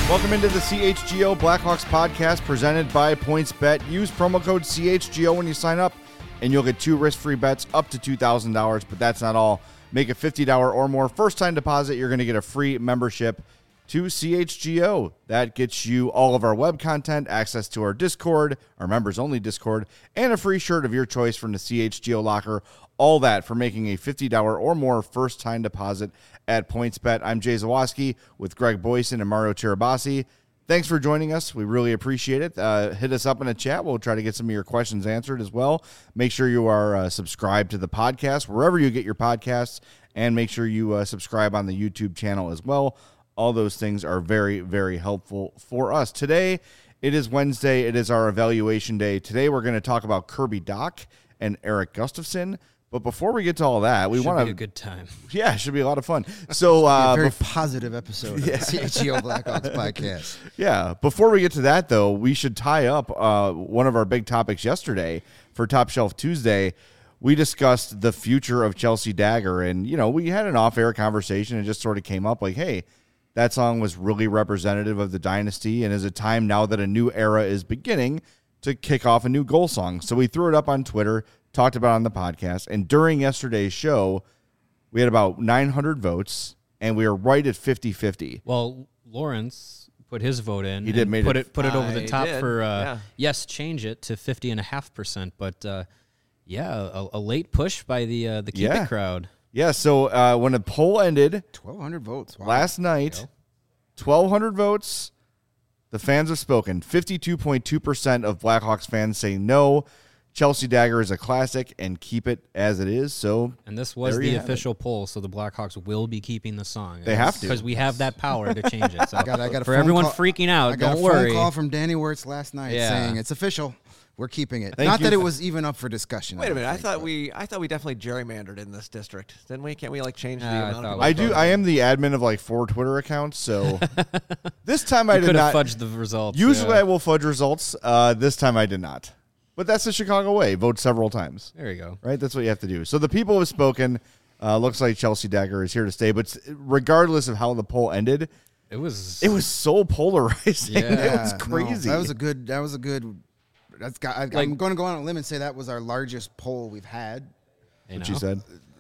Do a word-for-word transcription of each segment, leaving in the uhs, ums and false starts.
Welcome into the C H G O Blackhawks podcast presented by PointsBet. Use promo code C H G O when you sign up, and you'll get two risk-free bets up to two thousand dollars, but that's not all. Make a fifty dollars or more first-time deposit. You're going to get a free membership to C H G O. That gets you all of our web content, access to our Discord, our members-only Discord, and a free shirt of your choice from the C H G O locker. All that for making a fifty dollars or more first-time deposit at PointsBet. I'm Jay Zawaski with Greg Boyson and Mario Tirabassi. Thanks for joining us. We really appreciate it. Uh, hit us up in a chat. We'll try to get some of your questions answered as well. Make sure you are uh, subscribed to the podcast, wherever you get your podcasts, and make sure you uh, subscribe on the YouTube channel as well. All those things are very, very helpful for us. Today, it is Wednesday. It is our evaluation day. Today, we're going to talk about Kirby Dach and Erik Gustafsson. But before we get to all that, we want to be a good time. Yeah, it should be a lot of fun. So, uh, a very bef- positive episode of yeah. the C H G O Blackhawks podcast. Yeah. Before we get to that, though, we should tie up uh, one of our big topics yesterday for Top Shelf Tuesday. We discussed the future of Chelsea Dagger, and you know, we had an off-air conversation and just sort of came up like, hey, that song was really representative of the dynasty, and is a time now that a new era is beginning to kick off a new goal song. So we threw it up on Twitter, talked about it on the podcast, and during yesterday's show, we had about nine hundred votes, and we were right at fifty-fifty. Well, Lawrence put his vote in. He did, and made put it, it put it over I the top did, for, uh, yeah. yes, change it to fifty point five percent, but, uh, yeah, a, a late push by the uh, the Keep Yeah. It crowd. Yeah, so uh, when the poll ended twelve hundred votes. Wow. last night, twelve hundred votes, the fans have spoken. fifty-two point two percent of Blackhawks fans say no, Chelsea Dagger is a classic and keep it as it is. So, And this was there you the have official poll, so the Blackhawks will be keeping the song. They have to. Because we have that power to change it. So I got, I got a for phone everyone call, freaking out, I got don't a phone worry. call from Danny Wirtz last night Yeah. saying it's official. We're keeping it. Thank Not you. that it was even up for discussion. Wait a don't minute. I think, thought but- we I thought we definitely gerrymandered in this district, didn't we? Can't we like change the Uh, I amount thought of we I people? do. I am the admin of like four Twitter accounts, so this time I You did could have not. fudged the results. Usually yeah. I will fudge results. Uh, this time I did not. But that's the Chicago way. Vote several times. There you go. Right? That's what you have to do. So the people have spoken. Uh, looks like Chelsea Dagger is here to stay. But regardless of how the poll ended, It was. it was so polarizing. Yeah. It was no, crazy. that was a good. That was a good. That's got. I, Like- I'm going to go on a limb and say that was our largest poll we've had. you what know. you said.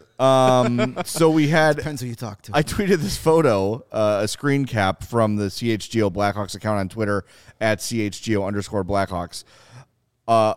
Um, so we had. Depends who you talk to. I tweeted this photo, uh, a screen cap from the C H G O Blackhawks account on Twitter at C H G O underscore Blackhawks. Uh,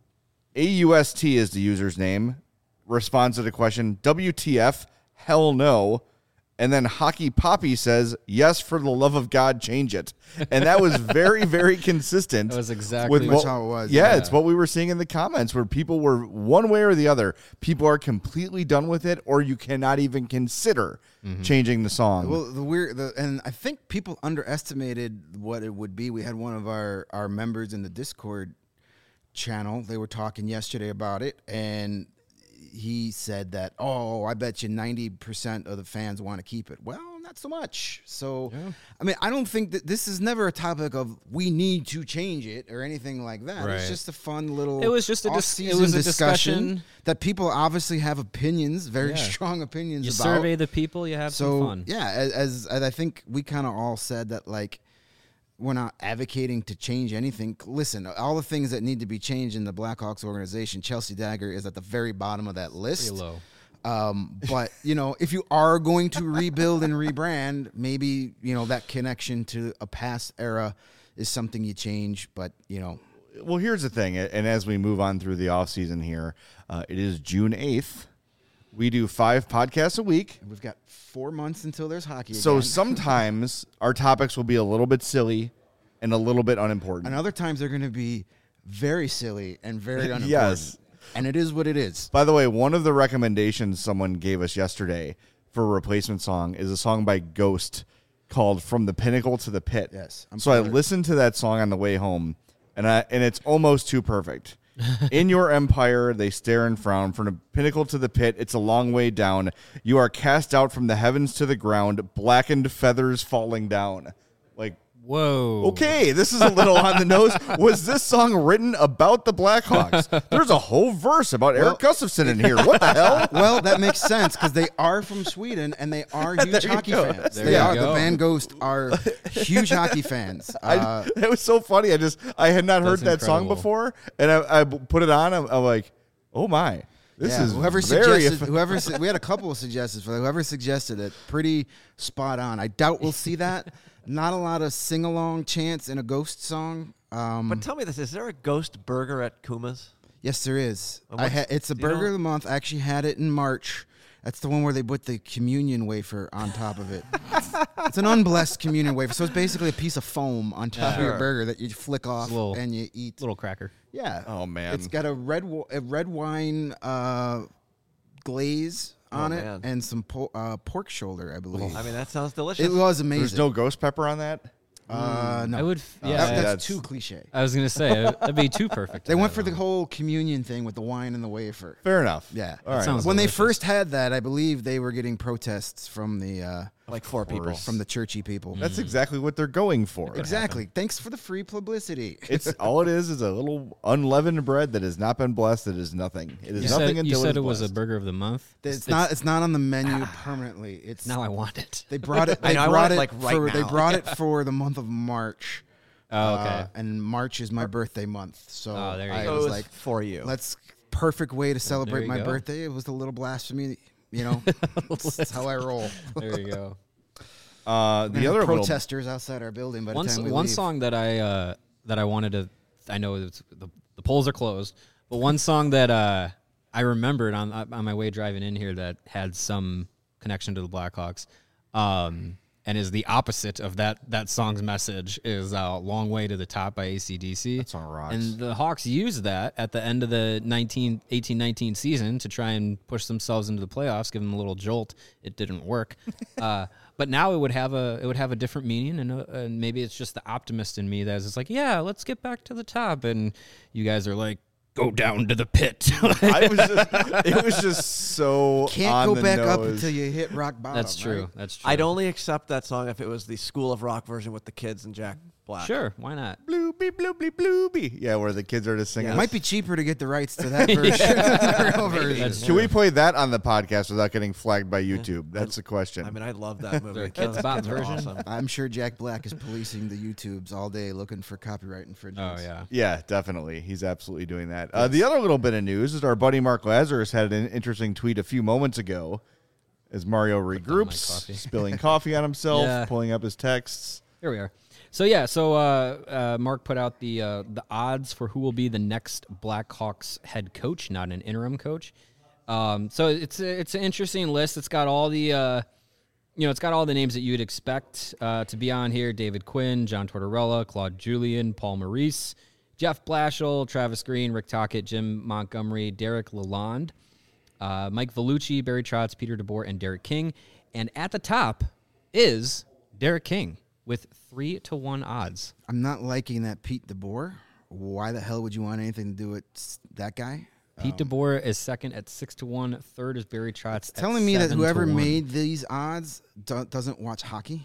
A U S T is the user's name. Responds to the question, W T F? Hell no. And then Hockey Poppy says, yes, for the love of God, change it. And that was very, very consistent. That was exactly with Pretty much what- how it was, Yeah, yeah. it's what we were seeing in the comments where people were one way or the other. People are completely done with it, or you cannot even consider changing the song. Well, the weird, the, and I think people underestimated what it would be. We had one of our, our members in the Discord channel. They were talking yesterday about it, and he said that, oh, I bet you ninety percent of the fans want to keep it. Well, not so much. So, I mean, I don't think that this is never a topic of we need to change it or anything like that. Right. It's just a fun little It was just a dis- off-season it was a discussion, discussion. that people obviously have opinions, very Yeah. strong opinions You about. survey the people, you have So some fun. yeah, as, as, as I think we kind of all said that, like, we're not advocating to change anything. Listen, all the things that need to be changed in the Blackhawks organization, Chelsea Dagger is at the very bottom of that list. Pretty low. Um, but you know, if you are going to rebuild and rebrand, maybe you know that connection to a past era is something you change. But you know, Well, here's the thing, and as we move on through the offseason here, uh, it is June eighth. We do five podcasts a week. we've got four months until there's hockey. So again. sometimes our topics will be a little bit silly and a little bit unimportant. and other times they're going to be very silly and very unimportant. Yes. And it is what it is. By the way, one of the recommendations someone gave us yesterday for a replacement song is a song by Ghost called From the Pinnacle to the Pit. Yes, I'm so I familiar. listened to that song on the way home, and I and it's almost too perfect. In your empire, they stare and frown. From the pinnacle to the pit, it's a long way down. You are cast out from the heavens to the ground, blackened feathers falling down. Like, Whoa. Okay, this is a little on the nose. Was this song written about the Blackhawks? There's a whole verse about Well- Eric Gustafsson in here. What the hell? Well, that makes sense because they are from Sweden and they are huge There you hockey go. fans. There They you are. go. The band Ghost are huge hockey fans. Uh, I, it was so funny. I just I had not heard That's that song incredible. before, and I, I put it on. I'm, I'm like, oh my, this yeah, is whoever very. suggested. Whoever su- we had a couple of suggestions for that. Whoever suggested it, pretty spot on. I doubt we'll see that. Not a lot of sing along chants in a Ghost song. Um, But tell me this: is there a ghost burger at Kuma's? yes, there is. And I what's- ha- it's a do you burger know? of the month. I actually had it in March. That's the one where they put the communion wafer on top of it. It's an unblessed communion wafer, so it's basically a piece of foam on top of your Sure. burger that you flick off little- and you eat. Little cracker. Yeah. Oh, man. It's got a red wa- a red wine uh, glaze on it man. and some po- uh, pork shoulder, I believe. I mean, that sounds delicious. It was amazing. There's no ghost pepper on that. uh, no. I would. f- Oh, Yeah. That- see, that's, that's- too cliche. I was gonna say uh, that'd be too perfect. They to went have for the on. whole communion thing with the wine and the wafer. Fair enough. Yeah. All right. sounds- When they delicious. first had that, I believe they were getting protests from the uh, like four people. from the churchy people. That's exactly what they're going for. Exactly. Thanks for the free publicity. It's all it is is a little unleavened bread that has not been blessed. It is nothing. It is You nothing said, until you said it it is was a blessed. burger of the month. It's not. It's not on the menu permanently. It's Now I want it. They brought it. I They know, I brought want it, it like, right for. They now. brought it for the month of March. Oh, okay. Uh, and March is my birthday month, so Oh, there you I go. So it was was like, for you. "Let's perfect way to celebrate you my go. birthday." It was a little blasphemy, you know. That's how I roll. There you go. Uh, the We have other little, protesters outside our building. By the One, time s- we one leave. song that I uh, that I wanted to, I know it's, the the polls are closed, but one song that uh, I remembered on on my way driving in here that had some connection to the Blackhawks, um, and is the opposite of that that song's message is uh, "Long Way to the Top" by A C D C. That song rocks. And the Hawks used that at the end of the nineteen eighteen nineteen season to try and push themselves into the playoffs, give them a little jolt. It didn't work. uh, But now it would have a it would have a different meaning, and, uh, and maybe it's just the optimist in me that is just like, yeah, let's get back to the top, and you guys are like, go down to the pit. I was just, it was just so Can't on go the back up nose. until you hit rock bottom. That's true. right? That's true. I'd only accept that song if it was the School of Rock version with the kids and Jack Black. Sure, why not? Bloopy, bloopy, bloopy. Yeah, where the kids are just singing. It might be cheaper to get the rights to that version. than the real version. That's Can we play that on the podcast without getting flagged by YouTube? That's the question. I mean, I love that movie. There, Kids Those Bop kids are version? awesome. I'm sure Jack Black is policing the YouTubes all day looking for copyright Oh infringements. yeah. yeah, definitely. He's absolutely doing that. Uh, the other little bit of news is our buddy Mark Lazarus had an interesting tweet a few moments ago as Mario regroups, coffee. spilling coffee on himself, Yeah. pulling up his texts. Here we are. So yeah, so uh, uh, Mark put out the uh, the odds for who will be the next Blackhawks head coach, not an interim coach. Um, so it's a, it's an interesting list. It's got all the uh, you know, it's got all the names that you'd expect uh, to be on here: David Quinn, John Tortorella, Claude Julien, Paul Maurice, Jeff Blashill, Travis Green, Rick Tocchet, Jim Montgomery, Derek Lalonde, uh, Mike Vellucci, Barry Trotz, Peter DeBoer, and Derek King. And at the top is Derek King with three to one odds. I'm not liking that Pete DeBoer. Why the hell would you want anything to do with s- that guy? Pete DeBoer is second at six to one. Third is Barry Trotz. at Telling me that seven to whoever one. made these odds do- doesn't watch hockey.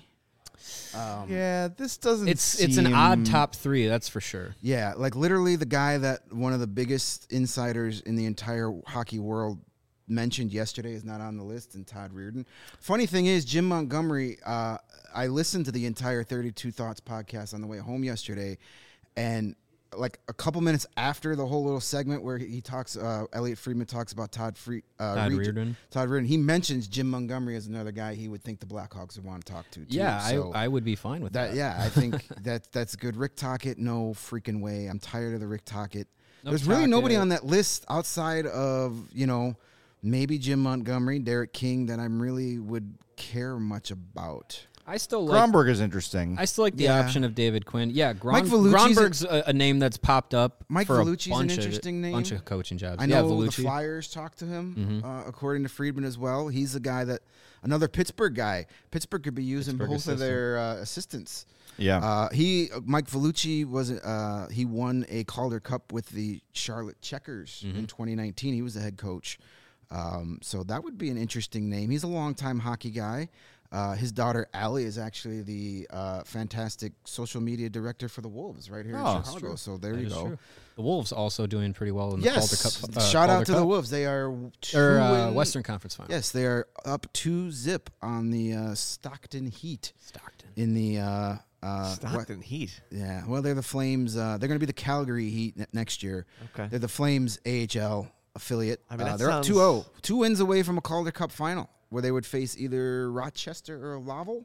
Yeah, this doesn't. it's it's an odd seem- top three, that's for sure. Yeah, like literally the guy that one of the biggest insiders in the entire hockey world mentioned yesterday is not on the list, and Todd Reardon. Funny thing is, Jim Montgomery, uh, I listened to the entire thirty-two Thoughts podcast on the way home yesterday, and like a couple minutes after the whole little segment where he talks, uh, Elliot Friedman talks about Todd Free, uh, Todd Reed- Reardon. Todd Reardon. He mentions Jim Montgomery as another guy he would think the Blackhawks would want to talk to. Too. Yeah, So I, I would be fine with that. that yeah, I think that that's good. Rick Tocchet, no freaking way. I'm tired of the Rick Tocchet. No There's really nobody Tocchet. on that list outside of, you know, maybe Jim Montgomery, Derek King that I'm really would care much about. I still like Gromberg is interesting. I still like the Yeah. option of David Quinn. Yeah, Gron, Mike Vellucci's Gronberg's a, a name that's popped up Mike for Vellucci's a an bunch interesting of, name. bunch of coaching jobs. I yeah, know the Vellucci. Mm-hmm. Flyers talked to him, uh, according to Friedman as well. He's a guy that another Pittsburgh guy. Pittsburgh could be using Pittsburgh both assistant. of their uh, assistants. yeah. Uh, he Mike Vellucci was uh, he won a Calder Cup with the Charlotte Checkers Mm-hmm. in twenty nineteen. He was the head coach, um, so that would be an interesting name. He's a longtime hockey guy. Uh, his daughter Allie is actually the uh, fantastic social media director for the Wolves right here Oh, in that's Chicago. true. So there That you is go. true. The Wolves also doing pretty well in the Yes, Calder Cup. Uh, shout Calder out to Cup. the Wolves. They are two Or uh, in- Western Conference Final. Yes, they are up two zip on the uh, Stockton Heat Stockton. in the. Uh, uh, Stockton what- Heat. Yeah, well, they're the Flames. Uh, they're going to be the Calgary Heat ne- next year. Okay. They're the Flames A H L affiliate. I mean, uh, that they're up sounds- two oh. Two wins away from a Calder Cup final where they would face either Rochester or Laval.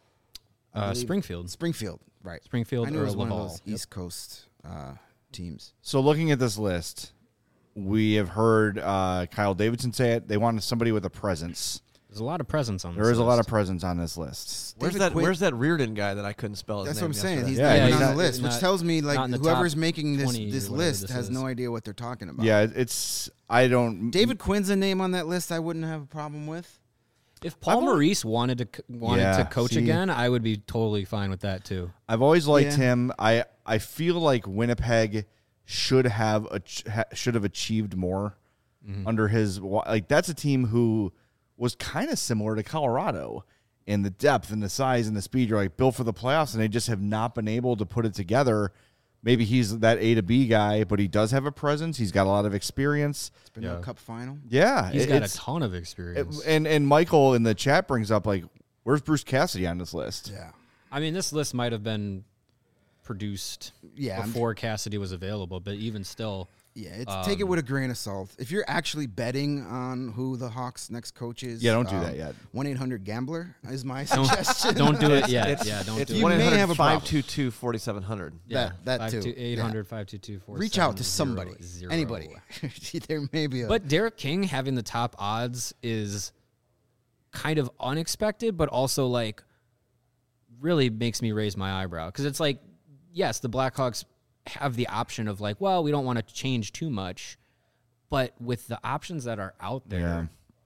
I Uh, believe- Springfield. Springfield, right. Springfield I knew or it was one of Laval. those Yep. East Coast uh, teams. So looking at this list, we have heard uh, Kyle Davidson say it. They wanted somebody with a presence. There's a lot of presence on this There is a lot list. of presence on this list. Where's David that? Quinn- Where's that Reardon guy that I couldn't spell his That's name what I'm saying. yesterday? He's Yeah, not even he's on not- the list, which not- tells me like not in the whoever's top making this twenty or this whatever list this has is. no idea what they're talking about. Yeah, it's I don't. David Quinn's a name on that list I wouldn't have a problem with. If Paul I've always- Maurice wanted to c- wanted Yeah, to coach see. again, I would be totally fine with that too. I've always liked Yeah. him. I I feel like Winnipeg should have ach- ha- should have achieved more Mm-hmm. under his wa- like that's a team who was kind of similar to Colorado in the depth and the size and the speed. You're like built for the playoffs, and they just have not been able to put it together. Maybe he's that A to B guy, but he does have a presence. He's got a lot of experience. It's been to Yeah. a cup final. Yeah, He's it- got a it's- ton of it- experience. and and Michael in the chat brings up like, where's Bruce Cassidy on this list? Yeah. I mean, this list might have been produced Yeah, I'm- before Cassidy was available, but even still, Yeah, it's, take it Um, with a grain of salt. If you're actually betting on who the Hawks' next coach is, Yeah, don't do that yet. one eight hundred gambler is my don't, suggestion. don't do it yet. It's, yeah, don't it's do You one it. may eight hundred have a five two two forty-seven hundred. Yeah, that- that too. eight hundred, five two two, four Reach out to somebody, anybody. there may be a. But Derek King having the top odds is kind of unexpected, but also like really makes me raise my eyebrow because it's like, yes, the Blackhawks have the option of like, well, we don't want to change too much, but with the options that are out there, Yeah.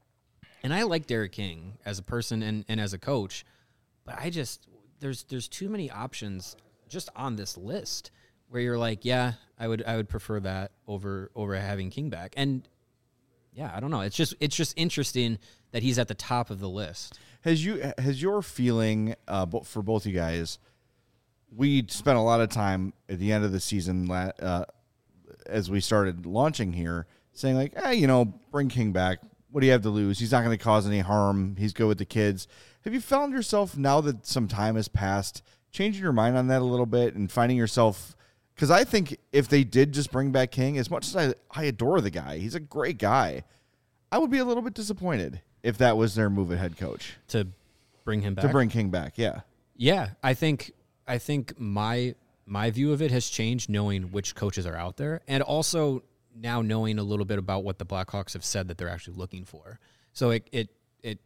and I like Derek King as a person and, and as a coach, but I just there's there's too many options just on this list where you're like, yeah, I would I would prefer that over over having King back. And yeah, I don't know. It's just it's just interesting that he's at the top of the list. Has you has your feeling uh, bo- for both you guys? We spent a lot of time at the end of the season la- uh, as we started launching here, saying like, "Hey, you know, bring King back. What do you have to lose? He's not going to cause any harm. He's good with the kids." Have you found yourself now that some time has passed, changing your mind on that a little bit and finding yourself? Because I think if they did just bring back King, as much as I, I adore the guy, he's a great guy. I would be a little bit disappointed if that was their move at head coach To bring him back. to bring King back. Yeah. Yeah, I think I think my my view of it has changed knowing which coaches are out there and also now knowing a little bit about what the Blackhawks have said that they're actually looking for. So it it it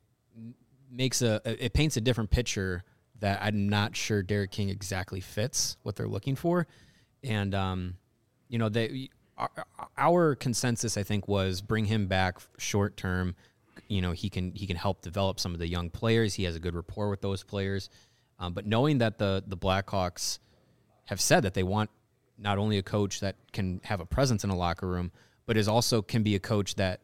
makes a it paints a different picture that I'm not sure Derek King exactly fits what they're looking for. And um you know, they our, our consensus I think was bring him back short term. You know, he can he can help develop some of the young players. He has a good rapport with those players. Um, but knowing that the the Blackhawks have said that they want not only a coach that can have a presence in a locker room, but is also can be a coach that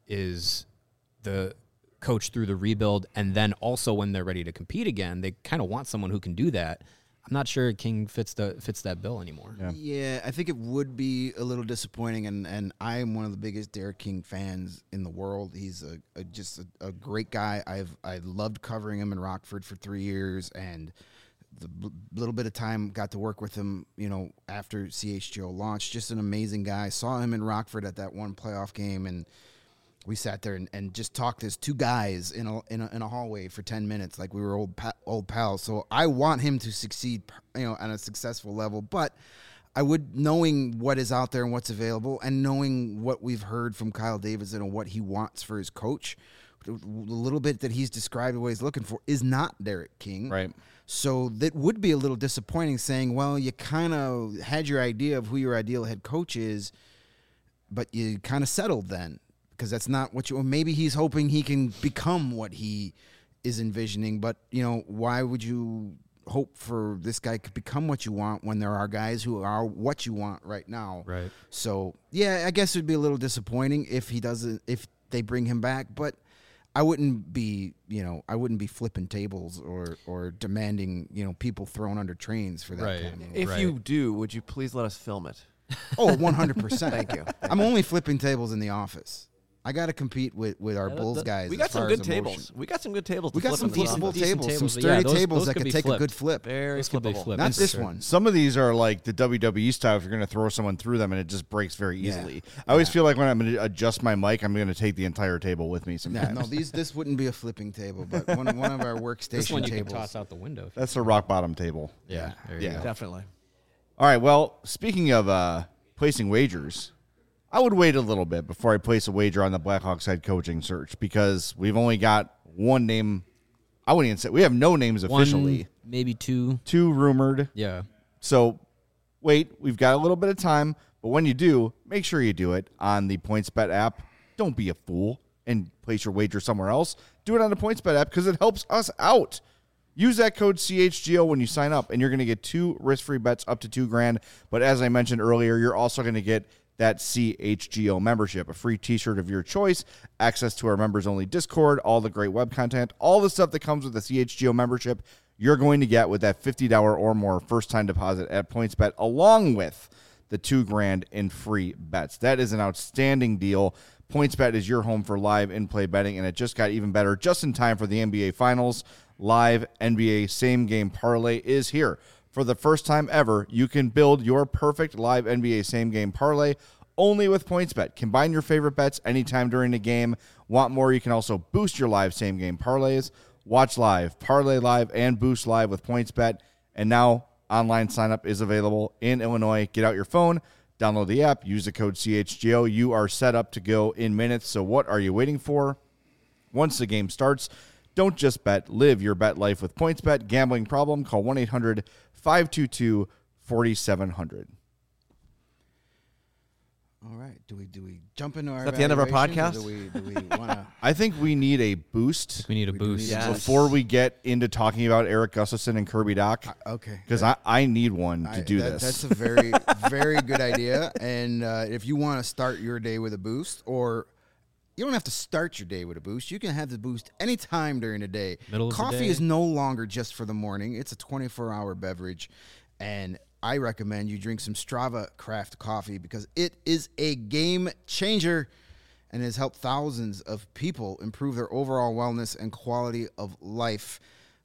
is the coach through the rebuild, and then also when they're ready to compete again, they kind of want someone who can do that. I'm not sure King fits the fits that bill anymore. Yeah. Yeah, I think it would be a little disappointing, and, and I am one of the biggest Derek King fans in the world. He's a, a just a, a great guy. I've I loved covering him in Rockford for three years, and the b- little bit of time got to work with him, you know, after C H G O launched. Just an amazing guy. Saw him in Rockford at that one playoff game, and we sat there and, and just talked as two guys in a, in a in a hallway for ten minutes, like we were old pa- old pals. So I want him to succeed, you know, on a successful level. But I would, knowing what is out there and what's available, and knowing what we've heard from Kyle Davidson and what he wants for his coach, the little bit that he's described what he's looking for is not Derek King. Right. So that would be a little disappointing, saying, well, you kind of had your idea of who your ideal head coach is, but you kind of settled then. Because that's not what you. Or maybe he's hoping he can become what he is envisioning. But you know, why would you hope for this guy to become what you want when there are guys who are what you want right now? Right. So yeah, I guess it'd be a little disappointing if he doesn't. If they bring him back, but I wouldn't be, you know, I wouldn't be flipping tables or or demanding, you know, people thrown under trains for that Right. kind of move. If Right. you do, would you please let us film it? Oh, one hundred percent. Thank you. I'm only flipping tables in the office. I got to compete with, with our Yeah, Bulls the- guys. We as got some far good as tables. emotion. We got some good tables. We to got flip some in the flippable office. decent tables, some tables, sturdy yeah, those- tables those that could could be take flipped. a good flip. Very Those could be flippable. flipped. Not for this sure. one. Some of these are like the W W E style. If you're going to throw someone through them and it just breaks very Yeah. easily. I always feel like when I'm going to adjust my mic, I'm going to take the entire table with me Yeah, sometimes. no, these this wouldn't be a flipping table, but one, one of our workstation This one you tables. can toss out the window. if you- That's a rock bottom table. Yeah, there you Yeah. go. Definitely. All right. Well, speaking of uh, placing wagers, I would wait a little bit before I place a wager on the Blackhawks head coaching search because we've only got one name. I wouldn't even say we have no names officially. One, maybe two. Two rumored. Yeah. So wait, we've got a little bit of time, but when you do, make sure you do it on the PointsBet app. Don't be a fool and place your wager somewhere else. Do it on the PointsBet app because it helps us out. Use that code C H G O when you sign up, and you're going to get two risk-free bets up to two grand. But as I mentioned earlier, you're also going to get that C H G O membership, a free t-shirt of your choice, access to our members-only Discord, all the great web content, all the stuff that comes with the C H G O membership you're going to get with that fifty dollars or more first-time deposit at PointsBet, along with the two grand in free bets. That is an outstanding deal. PointsBet is your home for live in-play betting, and it just got even better just in time for the N B A Finals. Live N B A same-game parlay is here. For the first time ever, you can build your perfect live N B A same-game parlay only with PointsBet. Combine your favorite bets anytime during the game. Want more? You can also boost your live same-game parlays. Watch live, parlay live, and boost live with PointsBet. And now online sign-up is available in Illinois. Get out your phone, download the app, use the code C H G O. You are set up to go in minutes. So what are you waiting for? Once the game starts, don't just bet. Live your bet life with PointsBet. Gambling problem? Call one eight hundred five two two four seven zero zero. All right, do we do we jump into our? Is that the end of our evaluations, podcast? or Do we do we want to? I think we need a boost We need a We do boost. need Yeah. to- before we get into talking about Eric Gustafson and Kirby Doc, Okay, because I, I need one to I- do that- this. That's a very, very good idea. And uh, if you want to start your day with a boost, or you don't have to start your day with a boost, you can have the boost anytime during the day. Middle of the Coffee day. is no longer just for the morning; it's a twenty-four hour beverage, and I recommend you drink some Strava Craft coffee because it is a game changer and has helped thousands of people improve their overall wellness and quality of life.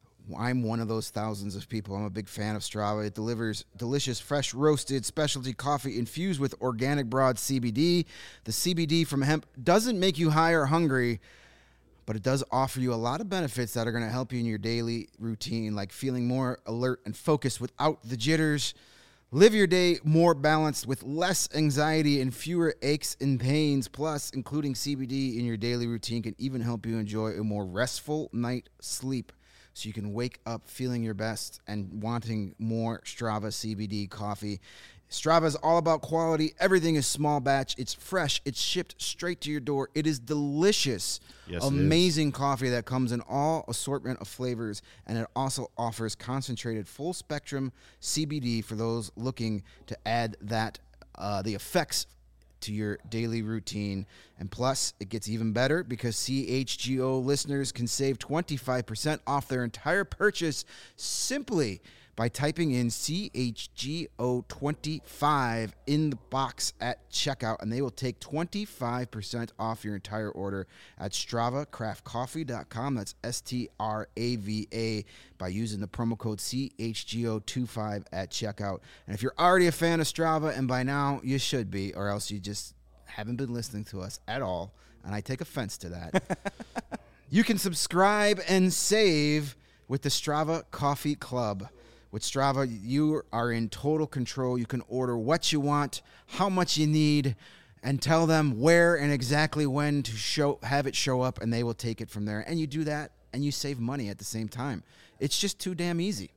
I'm one of those thousands of people. I'm a big fan of Strava. It delivers delicious, fresh, roasted specialty coffee infused with organic broad C B D. The C B D from hemp doesn't make you high or hungry, but it does offer you a lot of benefits that are going to help you in your daily routine, like feeling more alert and focused without the jitters. Live your day more balanced with less anxiety and fewer aches and pains. Plus, including C B D in your daily routine can even help you enjoy a more restful night sleep so you can wake up feeling your best and wanting more Strava C B D coffee. Strava is all about quality. Everything is small batch. It's fresh. It's shipped straight to your door. It is delicious. Yes, it is. Amazing coffee that comes in all assortment of flavors, and it also offers concentrated full spectrum C B D for those looking to add that uh, the effects to your daily routine. And plus, it gets even better because C H G O listeners can save twenty-five percent off their entire purchase simply by typing in C H G O twenty-five in the box at checkout, and they will take twenty-five percent off your entire order at strava craft coffee dot com. That's S T R A V A by using the promo code C H G O twenty-five at checkout. And if you're already a fan of Strava, and by now you should be, or else you just haven't been listening to us at all, and I take offense to that, you can subscribe and save with the Strava Coffee Club. With Strava, you are in total control. You can order what you want, how much you need, and tell them where and exactly when to show have it show up, and they will take it from there. And you do that, and you save money at the same time. It's just too damn easy.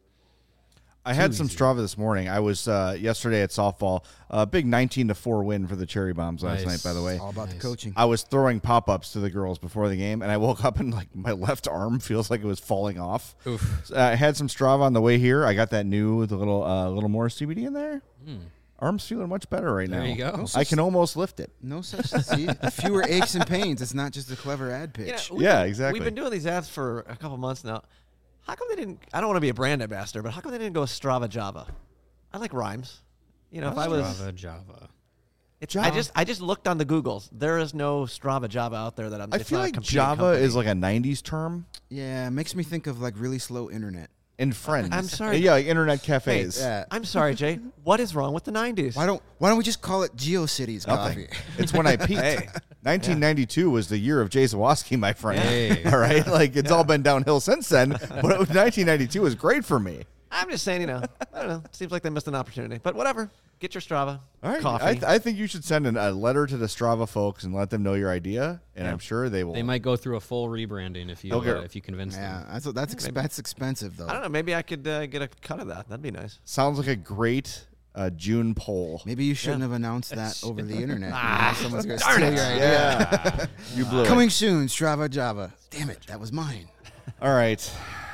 I had some Strava this morning. I was uh, yesterday at softball. A big nineteen to four win for the Cherry Bombs last Nice. night, by the way. It's all about Nice. the coaching. I was throwing pop-ups to the girls before the game, and I woke up and like my left arm feels like it was falling off. Oof. So, uh, I had some Strava on the way here. I got that new, the little, uh, little more C B D in there. Mm. Arm's feeling much better right There now. you go. I can almost lift it. No such see fewer aches and pains. It's not just a clever ad pitch. You know, we've Yeah, been- exactly. We've been doing these ads for a couple months now. How come they didn't? I don't want to be a brand ambassador, but how come they didn't go with Strava Java? I like rhymes. You know, if I was, Strava, Java. it's, I just I just looked on the Googles. There is no Strava Java out there that I'm. I it's feel not a like competing Java company. is like a nineties term Yeah, it makes me think of like really slow internet. in Friends. I'm sorry. Yeah, like internet Hey, cafes. Yeah. I'm sorry, Jay. What is wrong with the nineties? Why don't Why don't we just call it GeoCities Nothing. Coffee? It's when I peaked. Hey. nineteen ninety-two was the year of Jay Zawoski, my friend. Hey. All right, like it's all been downhill since then. But it was nineteen ninety-two was great for me. I'm just saying, you know, I don't know. Seems like they missed an opportunity, but whatever. Get your Strava. All right, Coffee. I, th- I think you should send an, a letter to the Strava folks and let them know your idea, and Yeah. I'm sure they will. They might go through a full rebranding if you Okay. uh, if you convince Yeah, them. that's that's ex- that's expensive though. I don't know. Maybe I could uh, get a cut of that. That'd be nice. Sounds like a great uh, June poll. Maybe you shouldn't Yeah. have announced that over the internet. Ah, You know, someone's gonna darn steal it. your idea. Yeah, you blew it. Coming soon, Strava Java. Damn it, that was mine. All right.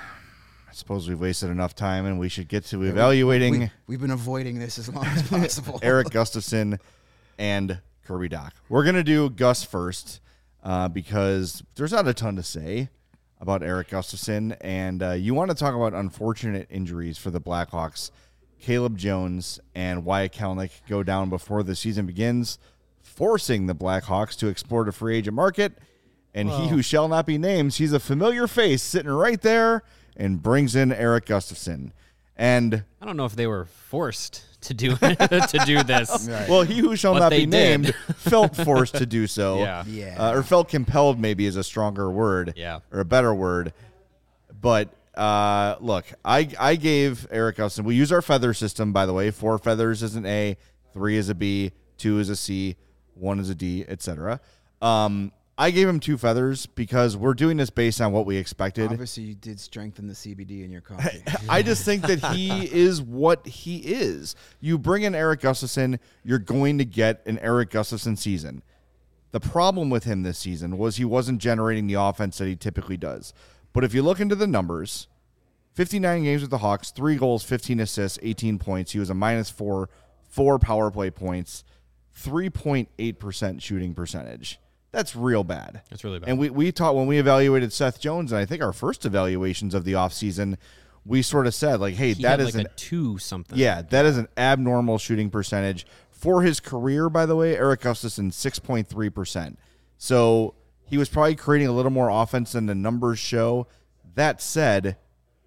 I suppose we've wasted enough time, and we should get to evaluating We, we've been avoiding this as long as possible. Eric Gustafson and Kirby Doc. We're going to do Gus first uh, because there's not a ton to say about Eric Gustafson, and uh, you want to talk about unfortunate injuries for the Blackhawks. Caleb Jones and Wyatt Kalnick go down before the season begins, forcing the Blackhawks to explore the free agent market, and he who shall not be named, he's a familiar face sitting right there, and brings in Eric Gustafson. And I don't know if they were forced to do to do this. Right. well, he who shall But not they be did. named felt forced to do so. Yeah. Yeah. Uh, or felt compelled maybe is a stronger word. Yeah. Or a better word. But uh, look, I I gave Eric Gustafson, we use our feather system, by the way. Four feathers is an A, three is a B, two is a C, one is a D, et cetera. Um, I gave him two feathers because we're doing this based on what we expected. Obviously, you did strengthen the C B D in your coffee. I just think that he is what he is. You bring in Eric Gustafson, you're going to get an Eric Gustafson season. The problem with him this season was he wasn't generating the offense that he typically does. But if you look into the numbers, fifty-nine games with the Hawks, three goals, fifteen assists, eighteen points. He was a minus four, four power play points, three point eight percent shooting percentage. That's real bad. That's really bad. And we, we taught when we evaluated Seth Jones, and I think our first evaluations of the offseason, we sort of said, like, hey, He that had is like an a two something. yeah, that is an abnormal shooting percentage. For his career, by the way, Eric Gustafson, six point three percent. So he was probably creating a little more offense than the numbers show. That said,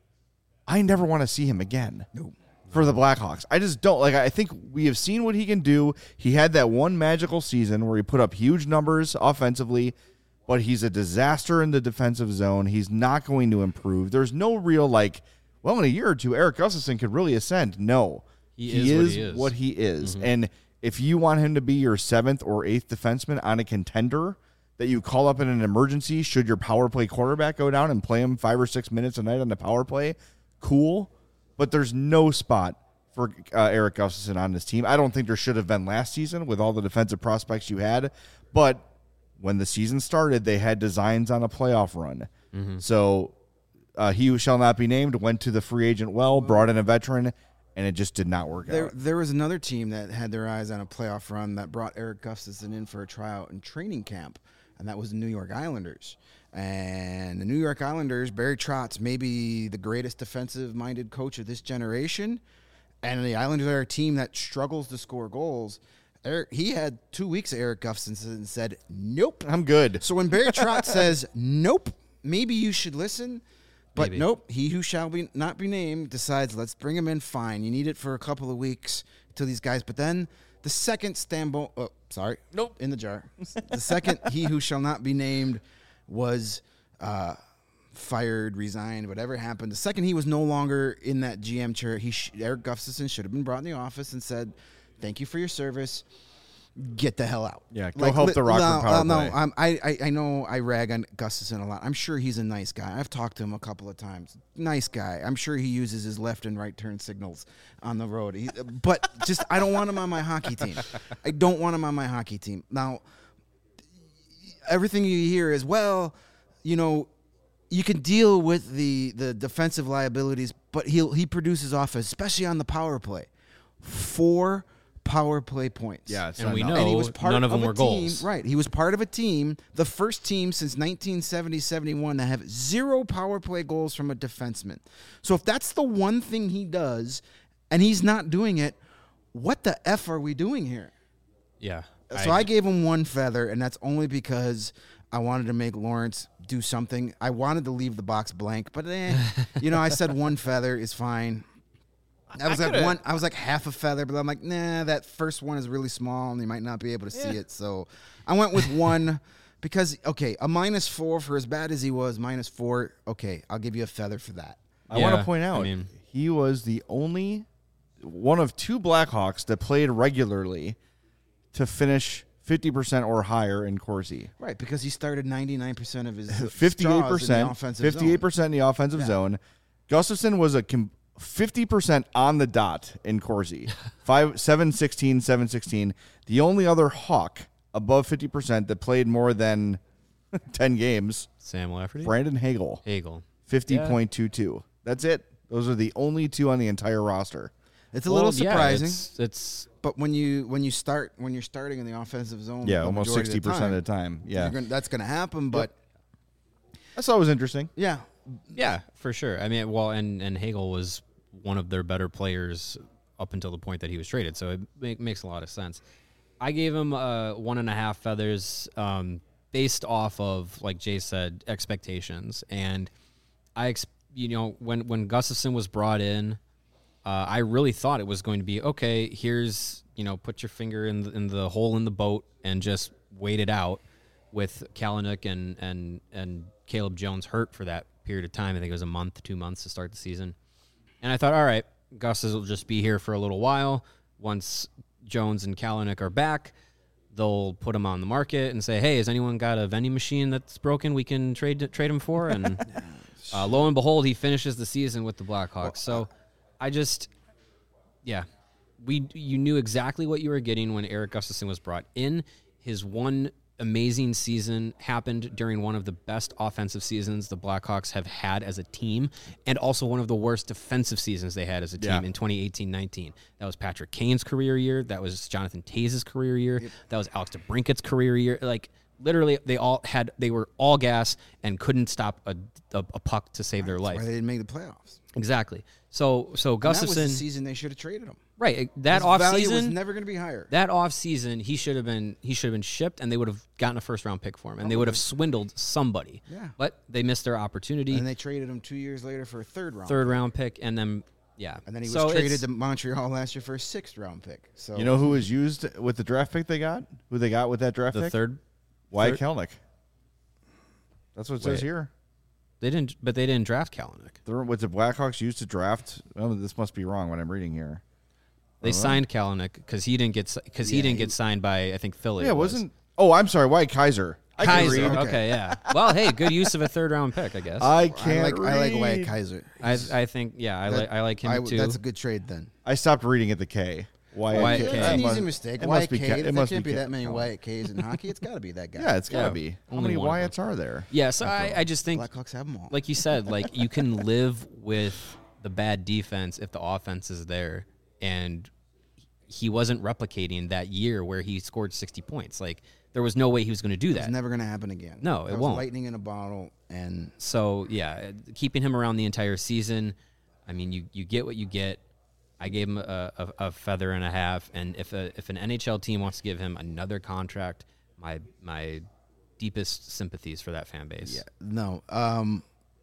I never want to see him again. No. For the Blackhawks. I just don't. Like, I think we have seen what he can do. He had that one magical season where he put up huge numbers offensively, but he's a disaster in the defensive zone. He's not going to improve. There's no real, like, well, in a year or two, Eric Gustafson could really ascend. No. He is what he is. what he is. And if you want him to be your seventh or eighth defenseman on a contender that you call up in an emergency, should your power play quarterback go down and play him five or six minutes a night on the power play, cool. But there's no spot for uh, Eric Gustafson on this team. I don't think there should have been last season with all the defensive prospects you had. But when the season started, they had designs on a playoff run. So uh, he who shall not be named went to the free agent well, brought in a veteran, and it just did not work There, out. there was another team that had their eyes on a playoff run that brought Eric Gustafson in for a tryout and training camp, and that was the New York Islanders. And the New York Islanders, Barry Trotz, maybe the greatest defensive-minded coach of this generation, and the Islanders are a team that struggles to score goals. Eric, he had two weeks of Eric Gustafson and said, nope. I'm good. So when Barry Trotz says, nope, maybe you should listen. But Maybe. nope, he who shall be not be named decides, let's bring him in, fine. You need it for a couple of weeks till these guys. But then the second Stambo, oh, sorry, Nope. in the jar. The second he who shall not be named was uh, fired, resigned, whatever happened. The second he was no longer in that G M chair, he sh- Eric Gustafson should have been brought in the office and said, thank you for your service. Get the hell out. Yeah, go help the Rockford no, power uh, no, play. I'm, I, I I know I rag on Gustafson a lot. I'm sure he's a nice guy. I've talked to him a couple of times. Nice guy. I'm sure he uses his left and right turn signals on the road. He, but just I don't want him on my hockey team. I don't want him on my hockey team. Now, everything you hear is, well, you know, you can deal with the the defensive liabilities, but he he produces offense, especially on the power play. Four power play points. Yeah, it's And not we enough. know And he was part none of them a were team, goals. Right. He was part of a team, the first team since nineteen seventy seventy-one that have zero power play goals from a defenseman. So if that's the one thing he does and he's not doing it, what the F are we doing here? Yeah. So I, gave him one feather, and that's only because I wanted to make Lawrence do something. I wanted to leave the box blank, but eh, you know, I said one feather is fine. I was I like coulda- one. I was like half a feather, but I'm like, nah, that first one is really small, and you might not be able to see it. So I went with one because okay, a minus four for as bad as he was, minus four. Okay, I'll give you a feather for that. I want Yeah, to point I out mean- he was the only one of two Blackhawks that played regularly to finish fifty percent or higher in Corsi. Right, because he started ninety-nine percent of his fifty-eight straws in the percent, offensive fifty-eight zone. percent in the offensive zone. Gustafson was a com- fifty percent on the dot in Corsi. Five, seven, sixteen, seven, sixteen. The only other Hawk above fifty percent that played more than ten games, Sam Lafferty? Brandon Hagel, Hagel. fifty point two two. That's it. Those are the only two on the entire roster. It's a Well, little yeah, surprising. it's, it's But when you when you start when you're starting in the offensive zone, Yeah, the almost majority sixty percent of of the time. Yeah. you're gonna, that's going to happen. But I thought it was interesting. yeah, yeah, for sure. I mean, well, and, and Hagel was one of their better players up until the point that he was traded, so it make, makes a lot of sense. I gave him uh, one and a half feathers um, based off of, like Jay said, expectations. And I, ex- you know, when when Gustafson was brought in, uh, I really thought it was going to be okay. Here's, you know, put your finger in the, in the hole in the boat and just wait it out. With Kalanick and and and Caleb Jones hurt for that period of time. I think it was a month, two months to start the season. And I thought, all right, Gus will just be here for a little while. Once Jones and Kalanick are back, they'll put him on the market and say, hey, has anyone got a vending machine that's broken we can trade trade him for? And uh, lo and behold, he finishes the season with the Blackhawks. So I just, yeah, we you knew exactly what you were getting when Eric Gustafson was brought in. His one amazing season happened during one of the best offensive seasons the Blackhawks have had as a team, and also one of the worst defensive seasons they had as a team Yeah. in twenty eighteen nineteen. That was Patrick Kane's career year. That was Jonathan Taze's career year. Yep. That was Alex DeBrincat's career year. Like, literally, they all had they were all gas and couldn't stop a, a, a puck to save their that's life. why they didn't make the playoffs. Exactly. So so And that was Gustafson, the season they should have traded him. right? That His off value was season, never going to be higher. that off season, he should have been he should have been shipped, and they would have gotten a first round pick for him, and they would have swindled somebody. Yeah. But they missed their opportunity. And they traded him two years later for a third round. Third round pick, and then yeah. And then he was So traded it's- to Montreal last year for a sixth round pick. So You know who was used with the draft pick they got? Who they got with that draft the pick? third. Wyatt third- Kelnick. That's what it says Wait. here. They didn't, but they didn't draft Kalanick. There was the Blackhawks used to draft. Oh, this must be wrong. What I'm reading here. They signed Kalanick because he didn't get because he Yeah, didn't he- get signed by I think Philly. Yeah, it was. wasn't. Oh, I'm sorry. Wyatt Kaiser. I can Kaiser. read. Okay. yeah. Well, hey, good use of a third round pick, I guess. I I can't. like I like read. Wyatt Kaiser. I I think yeah, I That- like I like him I- too. That's a good trade then. I stopped reading at the K. Wyatt, Wyatt K. K. It's It an must- easy mistake. It must Wyatt be. K. Ke- There It must can't be be Ke- that many Kelnick. Wyatt K's in hockey. It's got to be that guy. Yeah, it's got to Yeah. be. How Only many one of them. Wyatts are there? yeah, so I, I just think Blackhawks have them all. like you said, like you can live with the bad defense if the offense is there, and he wasn't replicating that year where he scored sixty points. Like there was no way he was going to do It's that. never going to happen again. No, That it was won't. Lightning in a bottle, and So yeah, keeping him around the entire season, I mean, you you get what you get. I gave him a, a, a feather and a half, and if a if an N H L team wants to give him another contract, my my deepest sympathies for that fan base. yeah, no. Um,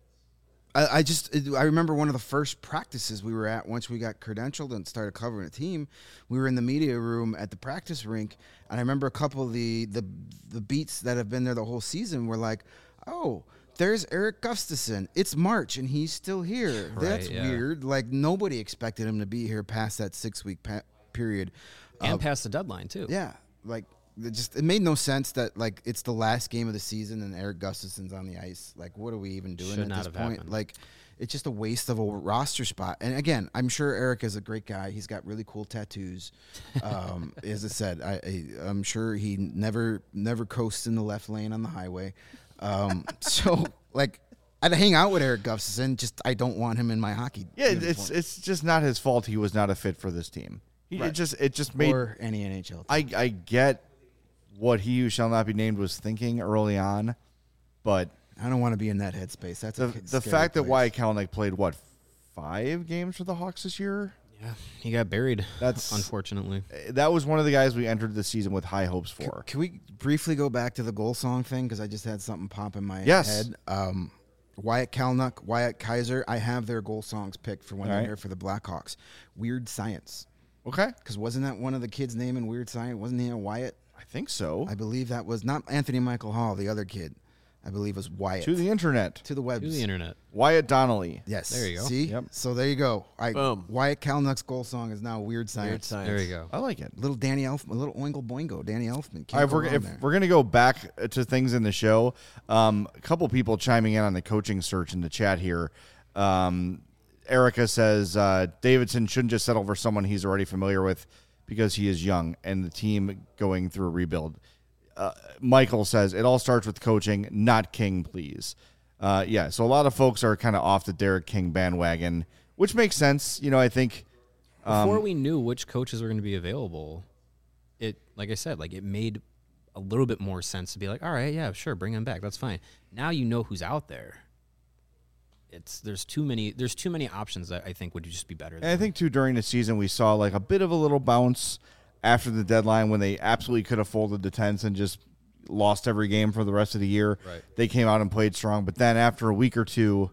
I, I just I remember one of the first practices we were at once we got credentialed and started covering a team. We were in the media room at the practice rink, and I remember a couple of the the the beats that have been there the whole season were like, oh. There's Eric Gustafson. It's March, and he's still here. Right, That's yeah. weird. Like, nobody expected him to be here past that six-week pa- period. and Uh, past the deadline too. Yeah, like it just it made no sense that like it's the last game of the season and Eric Gustafson's on the ice. Like, what are we even doing Should at not this have point? happened. Like, it's just a waste of a roster spot. And again, I'm sure Eric is a great guy. He's got really cool tattoos. Um, as I said, I, I I'm sure he never never coasts in the left lane on the highway. Um, so like. I'd hang out with Eric Gustafson. Just I don't want him in my hockey. Yeah, uniform. it's it's just not his fault. He was not a fit for this team. He, Right. It just it just made or any N H L team. I I get what he who shall not be named was thinking early on, but I don't want to be in that headspace. That's the a the scary fact that place. Wyatt Kalanick played what five games for the Hawks this year. Yeah, he got buried. That's- unfortunately. That was one of the guys we entered the season with high hopes C- for. Can we briefly go back to the goal song thing? Because I just had something pop in my Yes. head. Um, Wyatt Kalnuck, Wyatt Kaiser, I have their goal songs picked for one All right. year for the Blackhawks. Weird Science. Okay, Because wasn't that one of the kids' name in Weird Science? Wasn't he a Wyatt? I think so. I believe that was not Anthony Michael Hall, the other kid. I believe was Wyatt. To the internet, to the webs. To the internet. Wyatt Donnelly. Yes. There you go. See? Yep. So there you go. I, Boom. Wyatt Kalnuck's goal song is now Weird Science. Weird science. There you go. I like it. Little Danny Elfman, little Oingo Boingo, Danny Elfman. Can't All right, if go we're, wrong if there. we're going to go back to things in the show, um, a couple people chiming in on the coaching search in the chat here. Um, Erica says uh, Davidson shouldn't just settle for someone he's already familiar with because he is young and the team going through a rebuild. Uh, Michael says it all starts with coaching, not King, please. Uh, yeah, so a lot of folks are kind of off the Derek King bandwagon, which makes sense. You know, I think Before we knew which coaches were going to be available, it like I said, like it made a little bit more sense to be like, all right, yeah, sure, bring him back. That's fine. Now you know who's out there. It's there's too many there's too many options that I think would just be better. And I think, too, during the season, we saw like a bit of a little bounce after the deadline when they absolutely could have folded the tents and just lost every game for the rest of the year. Right. They came out and played strong. But then after a week or two,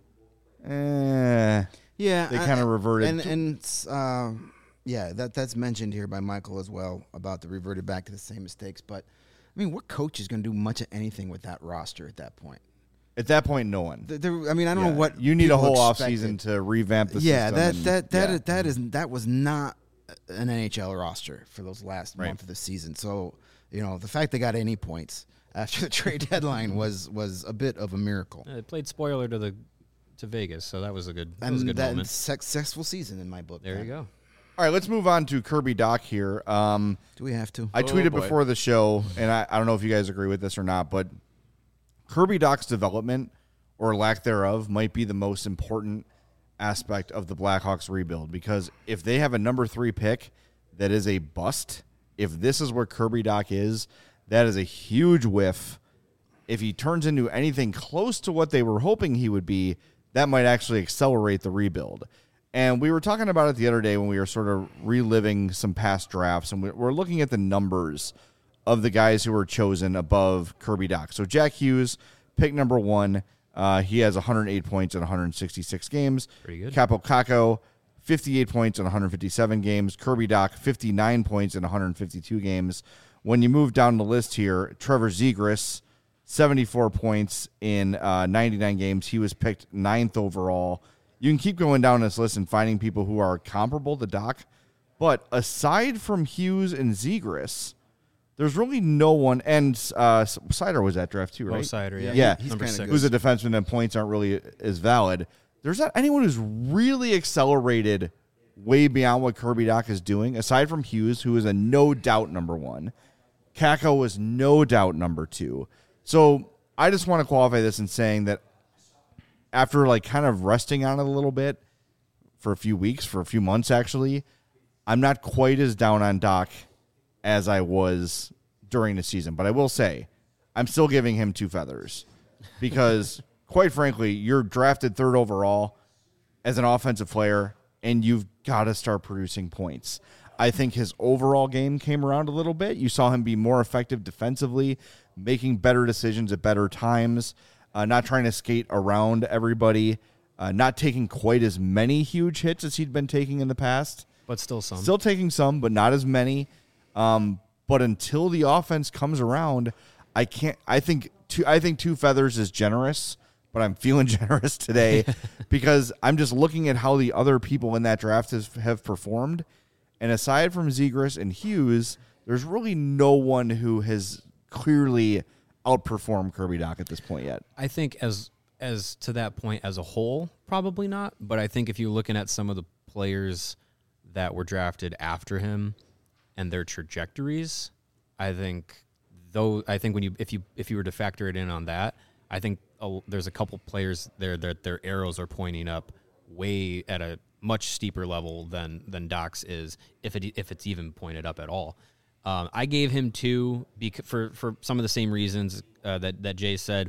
eh, Yeah, They I- kinda reverted and to- and uh, yeah, that that's mentioned here by Michael as well about the reverted back to the same mistakes. But I mean, what coach is going to do much of anything with that roster at that point? at that point, no one. Th- There, I mean, I don't Yeah. know what You need a people whole expected. offseason to revamp the Yeah, system. that and- that that yeah. is, that is that was not an N H L roster for those last Right. month of the season. So you know, the fact they got any points after the trade deadline was was a bit of a miracle. Uh, It played spoiler to the to Vegas, so that was a good that was a And good that moment. successful season in my book. There you man. go. All right, let's move on to Kirby Doc here. Um, Do we have to? I Oh, tweeted boy. before the show, and I, I don't know if you guys agree with this or not, but Kirby Doc's development or lack thereof might be the most important aspect of the Blackhawks rebuild, because if they have a number three pick that is a bust, if this is where Kirby Doc is, that is a huge whiff. If he turns into anything close to what they were hoping he would be, that might actually accelerate the rebuild. And we were talking about it the other day when we were sort of reliving some past drafts, and we- we're looking at the numbers of the guys who were chosen above Kirby Doc. So Jack Hughes, pick number one. Uh, he has one hundred eight points in one hundred sixty-six games. Pretty good. Capo Caco, fifty-eight points in one hundred fifty-seven games. Kirby Doc, fifty-nine points in one hundred fifty-two games. When you move down the list here, Trevor Zegras, seventy-four points in uh, ninety-nine games. He was picked ninth overall. You can keep going down this list and finding people who are comparable to Doc. But aside from Hughes and Zegras, there's really no one. And uh, Sider was at draft too, Mo right? Sider, yeah. Yeah. He's Number kinda six. good. Who's a defenseman and points aren't really as valid. There's not anyone who's really accelerated way beyond what Kirby Doc is doing, aside from Hughes, who is a no doubt number one. Kako was no doubt number two. So I just want to qualify this in saying that after like kind of resting on it a little bit for a few weeks, for a few months actually, I'm not quite as down on Doc as I was during the season. But I will say, I'm still giving him two feathers because, quite frankly, you're drafted third overall as an offensive player, and you've got to start producing points. I think his overall game came around a little bit. You saw him be more effective defensively, making better decisions at better times, uh, not trying to skate around everybody, uh, not taking quite as many huge hits as he'd been taking in the past. But still some. Still taking some, but not as many. Um, but until the offense comes around, I can't. I think two. I think two feathers is generous, but I'm feeling generous today because I'm just looking at how the other people in that draft has, have performed, and aside from Zegras and Hughes, there's really no one who has clearly outperformed Kirby Doc at this point yet. I think as as to that point as a whole, probably not. But I think if you're looking at some of the players that were drafted after him and their trajectories, I think though I think when you if you if you were to factor it in on that, I think a, there's a couple players there that their arrows are pointing up way at a much steeper level than than Doc's is, if it if it's even pointed up at all. Um, I gave him two bec- for for some of the same reasons uh, that that Jay said.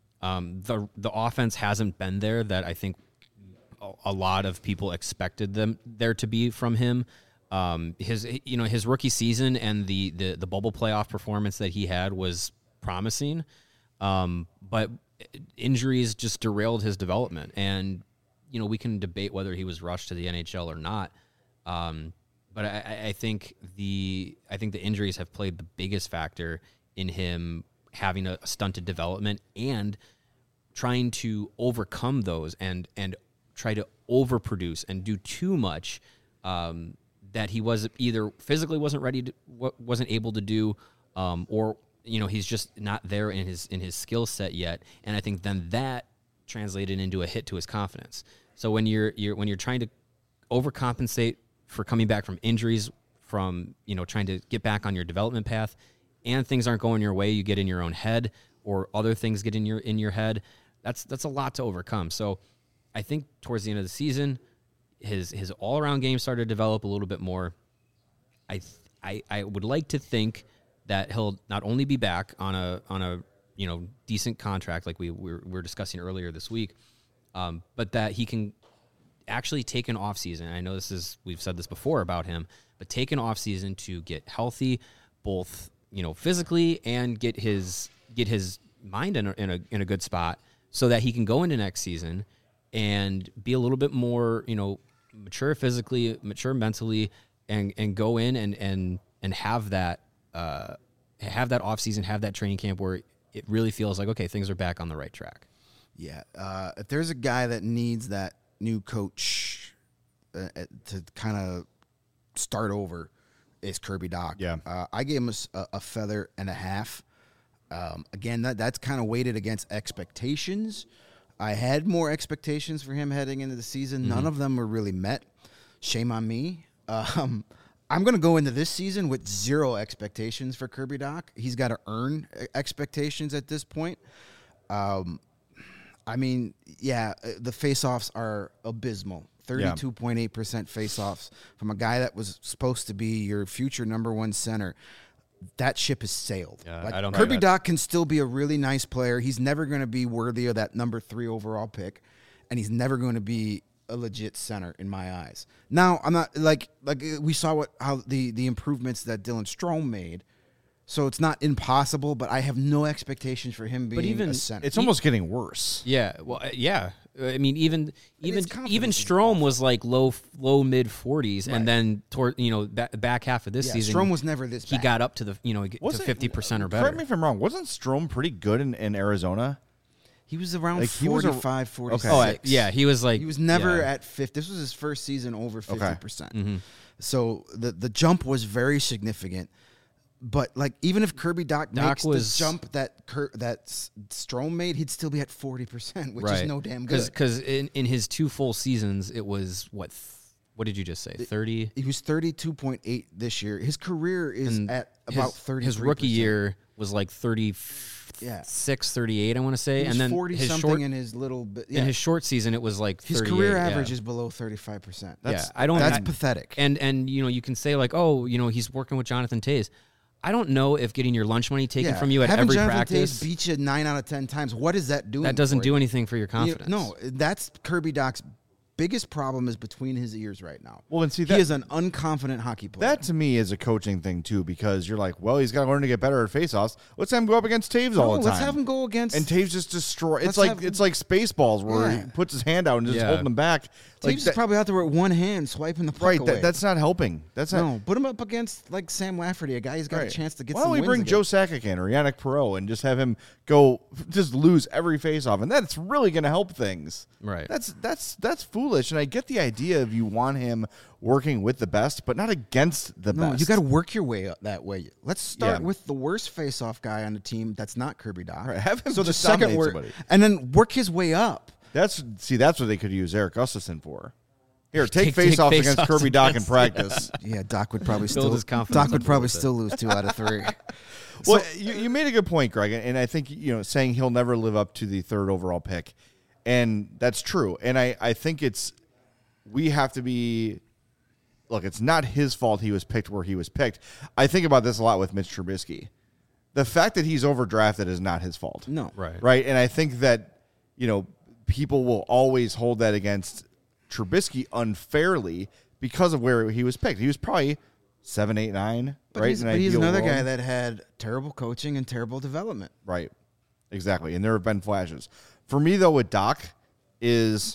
Um, the the offense hasn't been there that I think a, a lot of people expected them there to be from him. Um, his you know his rookie season and the the the bubble playoff performance that he had was promising, um, but injuries just derailed his development. And you know we can debate whether he was rushed to the N H L or not. Um, but I, I think the I think the injuries have played the biggest factor in him having a stunted development and trying to overcome those and and try to overproduce and do too much um, that he was either physically wasn't ready to, wasn't able to do, um, or you know he's just not there in his in his skill set yet. And I think then that translated into a hit to his confidence. So when you're you're when you're trying to overcompensate for coming back from injuries, from you know trying to get back on your development path, and things aren't going your way, you get in your own head, or other things get in your in your head. That's that's a lot to overcome. So I think towards the end of the season, his his all around game started to develop a little bit more. I th- I I would like to think that he'll not only be back on a on a you know decent contract like we we were, we were discussing earlier this week, um, but that he can actually take an off season. I know this is we've said this before about him, but take an off season to get healthy, both you know, physically and get his get his mind in a, in a in a good spot so that he can go into next season and be a little bit more, you know, mature physically, mature mentally, and and go in and and and have that uh, have that off season, have that training camp where it really feels like okay, things are back on the right track. Yeah, uh, if there's a guy that needs that new coach uh, to kind of start over, is Kirby Dach. Yeah. Uh, I gave him a, a feather and a half. Um, again, that that's kind of weighted against expectations. I had more expectations for him heading into the season. Mm-hmm. None of them were really met. Shame on me. Um, I'm going to go into this season with zero expectations for Kirby Dach. He's got to earn expectations at this point. Um, I mean, yeah, the face-offs are abysmal. thirty-two point eight percent face-offs from a guy that was supposed to be your future number one center. That ship has sailed. Yeah, like, I don't Kirby know Dach can still be a really nice player. He's never going to be worthy of that number three overall pick, and he's never going to be a legit center in my eyes. Now, I'm not like like we saw what how the the improvements that Dylan Strome made. So it's not impossible, but I have no expectations for him being even- a center. It's almost getting worse. Yeah, well, uh, yeah. I mean, even even it's confidence even is Strome was like low low mid forties, Right. and then toward you know back, back half of this yeah, season, Strome was never this he bad. got up to the you know to Wasn't- fifty percent or better. Correct me if I'm wrong. Wasn't Strome pretty good in, in Arizona? He was around Like, he was a- forty-five, forty-six. Okay. Oh, I- yeah, he was like He was never yeah. at fifty. This was his first season over fifty percent. Mm-hmm. So the the jump was very significant. But like even if Kirby Dach, Dach makes was- the jump that Kir- that S- Strome made, he'd still be at forty percent, which is no damn good. Because in, in his two full seasons, it was what th- what did you just say? Thirty. He was thirty-two point eight this year. His career is And at about his, thirty. his rookie year was like thirty Yeah. six, thirty-eight, I want to say, He was and then forty his something short in his little bit. Yeah. in his short season, it was like His thirty-eight, career yeah. average is below thirty-five percent. Yeah, I don't. That's I- pathetic. And and you know you can say like, oh, you know he's working with Jonathan Toews. I don't know if getting your lunch money taken Yeah. from you at Having every Jonathan practice Toews beat you nine out of ten times. What is that doing? that doesn't for do you? anything for your You- confidence. No, that's Kirby Dach's biggest problem is between his ears right now. Well, and see, he that- is an unconfident hockey player. That to me is a coaching thing too, because you're like, well, he's got to learn to get better at faceoffs. Let's have him go up against Taves all No, the time. let's have him go against. And Taves just destroy. It's Let's like have- it's like Spaceballs where Yeah. he puts his hand out and just Yeah. holding him back. Taves Like is that- probably out there with one hand swiping the puck right. away. That, that's not helping. That's not. no. Put him up against like Sam Lafferty, a guy who's got Right. a chance to get. Why don't some we wins bring Joe against. Sakic in or Yannick Perreault and just have him go just lose every faceoff, and that's really going to help things. Right. That's that's that's foolish, and I get the idea of you want him working with the best, but not against the No, best. you got to work your way up that way. Let's start Yeah. with the worst face-off guy on the team. That's not Kirby Dach. Right, have him so the just second dominate work, somebody. and then work his way up. That's see, that's what they could use Eric Gustafson for. Here, take, Take- take face-offs against face-offs Kirby Dach in against- practice. Yeah, Doc would probably Build still. his confidence Doc up would a probably little bit. still lose two out of three. Well, you, you made a good point, Greg, and I think you know saying he'll never live up to the third overall pick, and that's true. And I, I think it's we have to be. Look, it's not his fault he was picked where he was picked. I think about this a lot with Mitch Trubisky. The fact that he's overdrafted is not his fault. No. Right. Right. And I think that, you know, people will always hold that against Trubisky unfairly because of where he was picked. He was probably seven, eight, nine. But right. he's, In but he's ideal another world. guy that had terrible coaching and terrible development. Right. Exactly. And there have been flashes. For me, though, with Doc is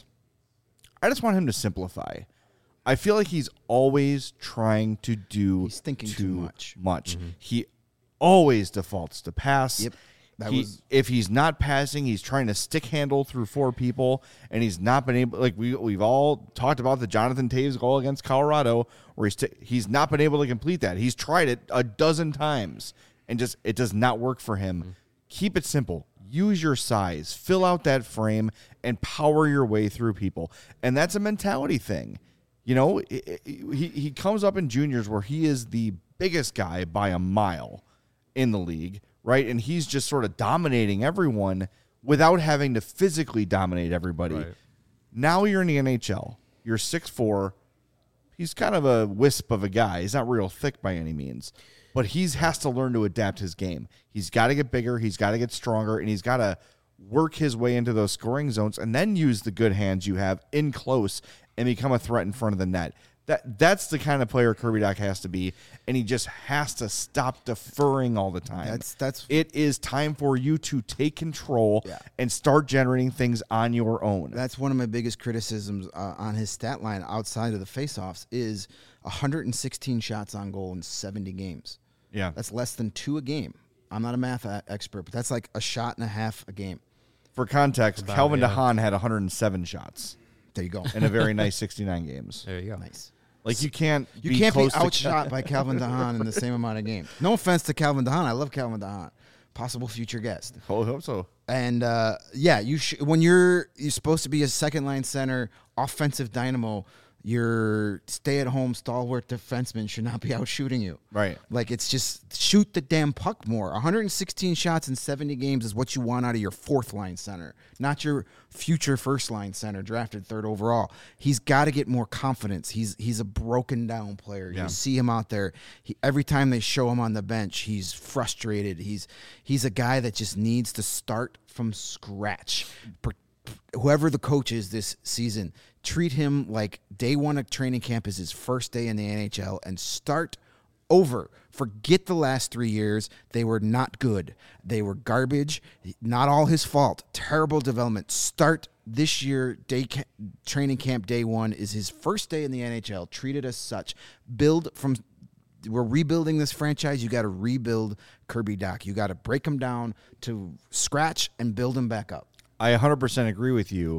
I just want him to simplify. I feel like he's always trying to do He's thinking too, too much. much. He always defaults to pass. Yep. That He- was if he's not passing, he's trying to stick handle through four people, and he's not been able. Like we we've all talked about the Jonathan Taves goal against Colorado, where he's sti- he's not been able to complete that. He's tried it a dozen times, and just it does not work for him. Keep it simple. Use your size, fill out that frame, and power your way through people. And that's a mentality thing. You know, i- i- he he comes up in juniors where he is the biggest guy by a mile in the league, right? And he's just sort of dominating everyone without having to physically dominate everybody. Right. Now you're in the N H L. You're six foot four. He's kind of a wisp of a guy. He's not real thick by any means. But he has to learn to adapt his game. He's got to get bigger. He's got to get stronger. And he's got to work his way into those scoring zones and then use the good hands you have in close and become a threat in front of the net. That That's the kind of player Kirby Dach has to be. And he just has to stop deferring all the time. That's- that's- It is time for you to take control Yeah. and start generating things on your own. That's one of my biggest criticisms uh, on his stat line outside of the faceoffs is one hundred sixteen shots on goal in seventy games. yeah. That's less than two a game. I'm not a math a- expert, but that's like a shot and a half a game. For context, Calvin yeah. DeHaan had one hundred seven shots There you go. in a very nice sixty-nine games. There you go. Nice. Like you can't You be can't be close to- outshot by Calvin DeHaan in the same amount of games. No offense to Calvin DeHaan. I love Calvin DeHaan. Possible future guest. I hope so. And uh, yeah, you sh- when you're you're supposed to be a second line center, offensive dynamo, your stay-at-home stalwart defenseman should not be out shooting you. Right. Like it's just shoot the damn puck more. one hundred sixteen shots in seventy games is what you want out of your fourth line center, not your future first line center drafted third overall. He's got to get more confidence. He's he's a broken down player. Yeah. You see him out there. He, every time they show him on the bench, he's frustrated. He's he's a guy that just needs to start from scratch. Per- Whoever the coach is this season, treat him like day one of training camp is his first day in the N H L and start over. Forget the last three years. They were not good. They were garbage. Not all his fault. Terrible development. Start this year. Day ca- training camp day one is his first day in the N H L. Treat it as such. Build from. We're rebuilding this franchise. You got to rebuild Kirby Dach. You got to break him down to scratch and build him back up. I one hundred percent agree with you.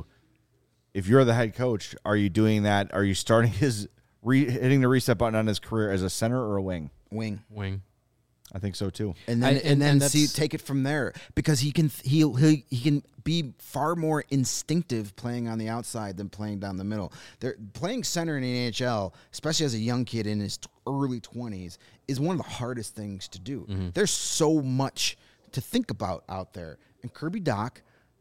If you're the head coach, are you doing that? Are you starting his re- hitting the reset button on his career as a center or a wing? Wing. Wing. I think so too. And then I- and, and- then and see that's- take it from there because he can he'll, he he can be far more instinctive playing on the outside than playing down the middle. They're playing center in the N H L, especially as a young kid in his t- early twenties, is one of the hardest things to do. There's so much to think about out there, and Kirby Dach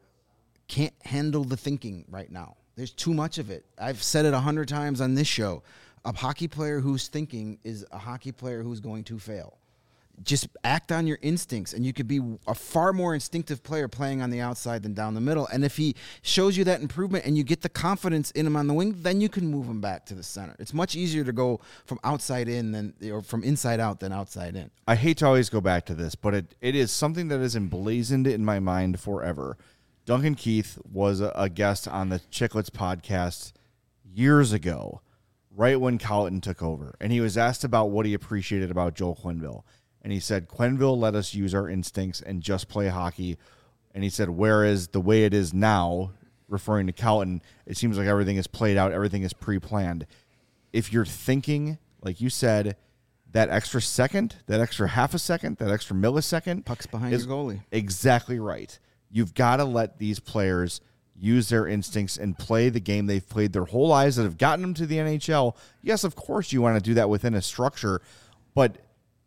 can't handle the thinking right now. There's too much of it. I've said it a hundred times on this show. A hockey player who's thinking is a hockey player who's going to fail. Just act on your instincts, and you could be a far more instinctive player playing on the outside than down the middle. And if he shows you that improvement and you get the confidence in him on the wing, then you can move him back to the center. It's much easier to go from outside in than or from inside out than outside in. I hate to always go back to this, but it, it is something that is emblazoned in my mind forever. Duncan Keith was a, a guest on the Chicklets podcast years ago, right when Colleton took over. And he was asked about what he appreciated about Joel Quenneville. And he said, Quenneville let us use our instincts and just play hockey. And he said, whereas the way it is now, referring to Colleton, it seems like everything is played out, everything is pre-planned. If you're thinking, like you said, that extra second, that extra half a second, that extra millisecond. Puck's behind is your goalie. Exactly right. You've got to let these players use their instincts and play the game they've played their whole lives that have gotten them to the N H L. Yes, of course you want to do that within a structure, but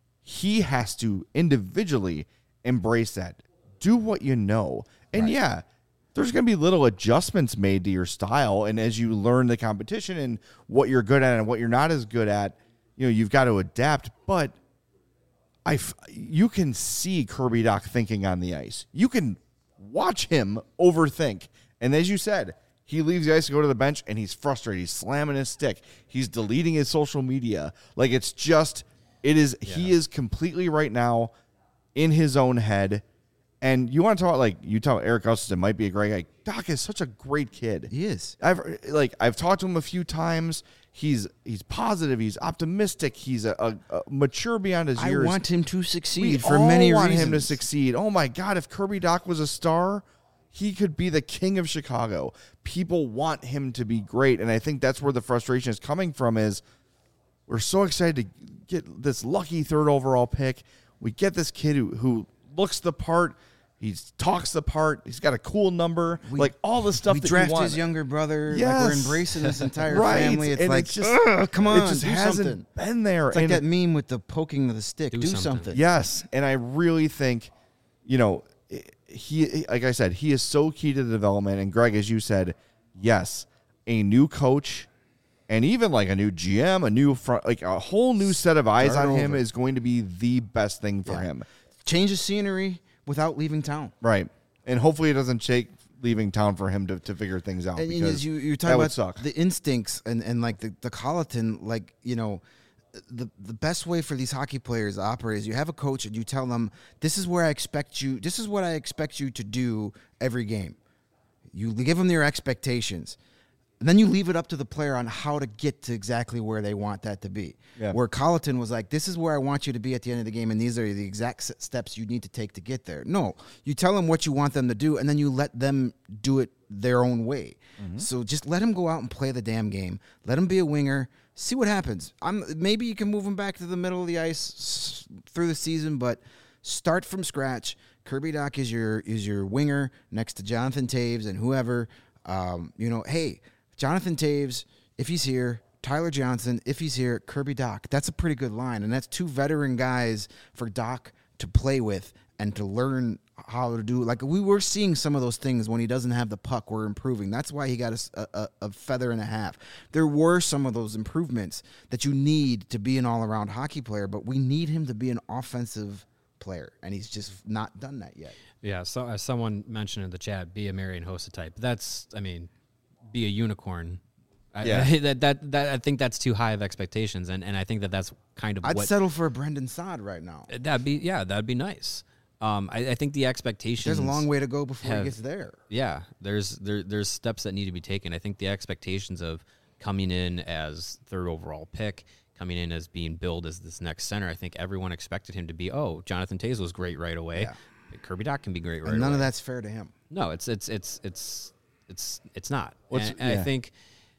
he has to individually embrace that. Do what you know. And Right. yeah, there's going to be little adjustments made to your style. And as you learn the competition and what you're good at and what you're not as good at, you know, you've got to adapt. But I, you can see Kirby Dach thinking on the ice. You can watch him overthink. And as you said, he leaves the ice to go to the bench, and he's frustrated. He's slamming his stick. He's deleting his social media. Like, it's just, it is, yeah. He is completely right now in his own head. And you want to talk like you talk Erik Gustafsson might be a great guy. Dach is such a great kid. He is. I've like I've talked to him a few times. He's he's positive. He's optimistic. He's a, a, a mature beyond his years. I want him to succeed we for all many want reasons. him to succeed. Oh my God! If Kirby Dach was a star, he could be the king of Chicago. People want him to be great, and I think that's where the frustration is coming from. Is we're so excited to get this lucky third overall pick. We get this kid who who looks the part. He talks the part. He's got a cool number. We, like all the stuff we that draft you want. his younger brother. Yes. Like we're embracing this entire right. family. It's and like, it's just, ugh, come on, it just do hasn't something. been there. It's like and that meme with the poking of the stick. Do, do something. something. Yes, and I really think, you know, he, like I said, he is so key to the development. And Greg, as you said, yes, a new coach and even like a new G M, a new front, like a whole new set of eyes Start on him over. is going to be the best thing for Yeah. him. Change the scenery without leaving town. Right. And hopefully it doesn't take leaving town for him to, to figure things out. And, and because as you you that talk would about suck. the instincts and, and like the, the Colleton, like, you know, the the best way for these hockey players to operate is you have a coach and you tell them, this is where I expect you, this is what I expect you to do every game. You give them your expectations. And then you leave it up to the player on how to get to exactly where they want that to be. Yeah. Where Colleton was like, this is where I want you to be at the end of the game, and these are the exact s- steps you need to take to get there. No, you tell them what you want them to do, and then you let them do it their own way. Mm-hmm. So just let them go out and play the damn game. Let them be a winger. See what happens. I'm, maybe you can move them back to the middle of the ice s- through the season, but start from scratch. Kirby Dach is your is your winger next to Jonathan Toews and whoever. Um, you know, hey, Jonathan Toews, if he's here, Tyler Johnson, if he's here, Kirby Dach. That's a pretty good line, and that's two veteran guys for Dach to play with and to learn how to do. Like, we were seeing some of those things when he doesn't have the puck. We're improving. That's why he got a, a, a feather and a half. There were some of those improvements that you need to be an all-around hockey player, but we need him to be an offensive player, and he's just not done that yet. Yeah, so as someone mentioned in the chat, be a Marian Hossa type. That's, I mean, be a unicorn. I, Yeah. I, that, that that I think that's too high of expectations, and, and I think that that's kind of I'd what settle for a Brendan Saad right now. that'd be. Yeah, that'd be nice. Um, I, I think the expectations. There's a long way to go before have- he gets there. Yeah, there's there there's steps that need to be taken. I think the expectations of coming in as third overall pick, coming in as being billed as this next center, I think everyone expected him to be. Oh, Jonathan Toews was great right away. Yeah. Kirby Dach can be great right And none away. of that's fair to him. No, it's it's it's it's it's it's not. What's- and and yeah. I think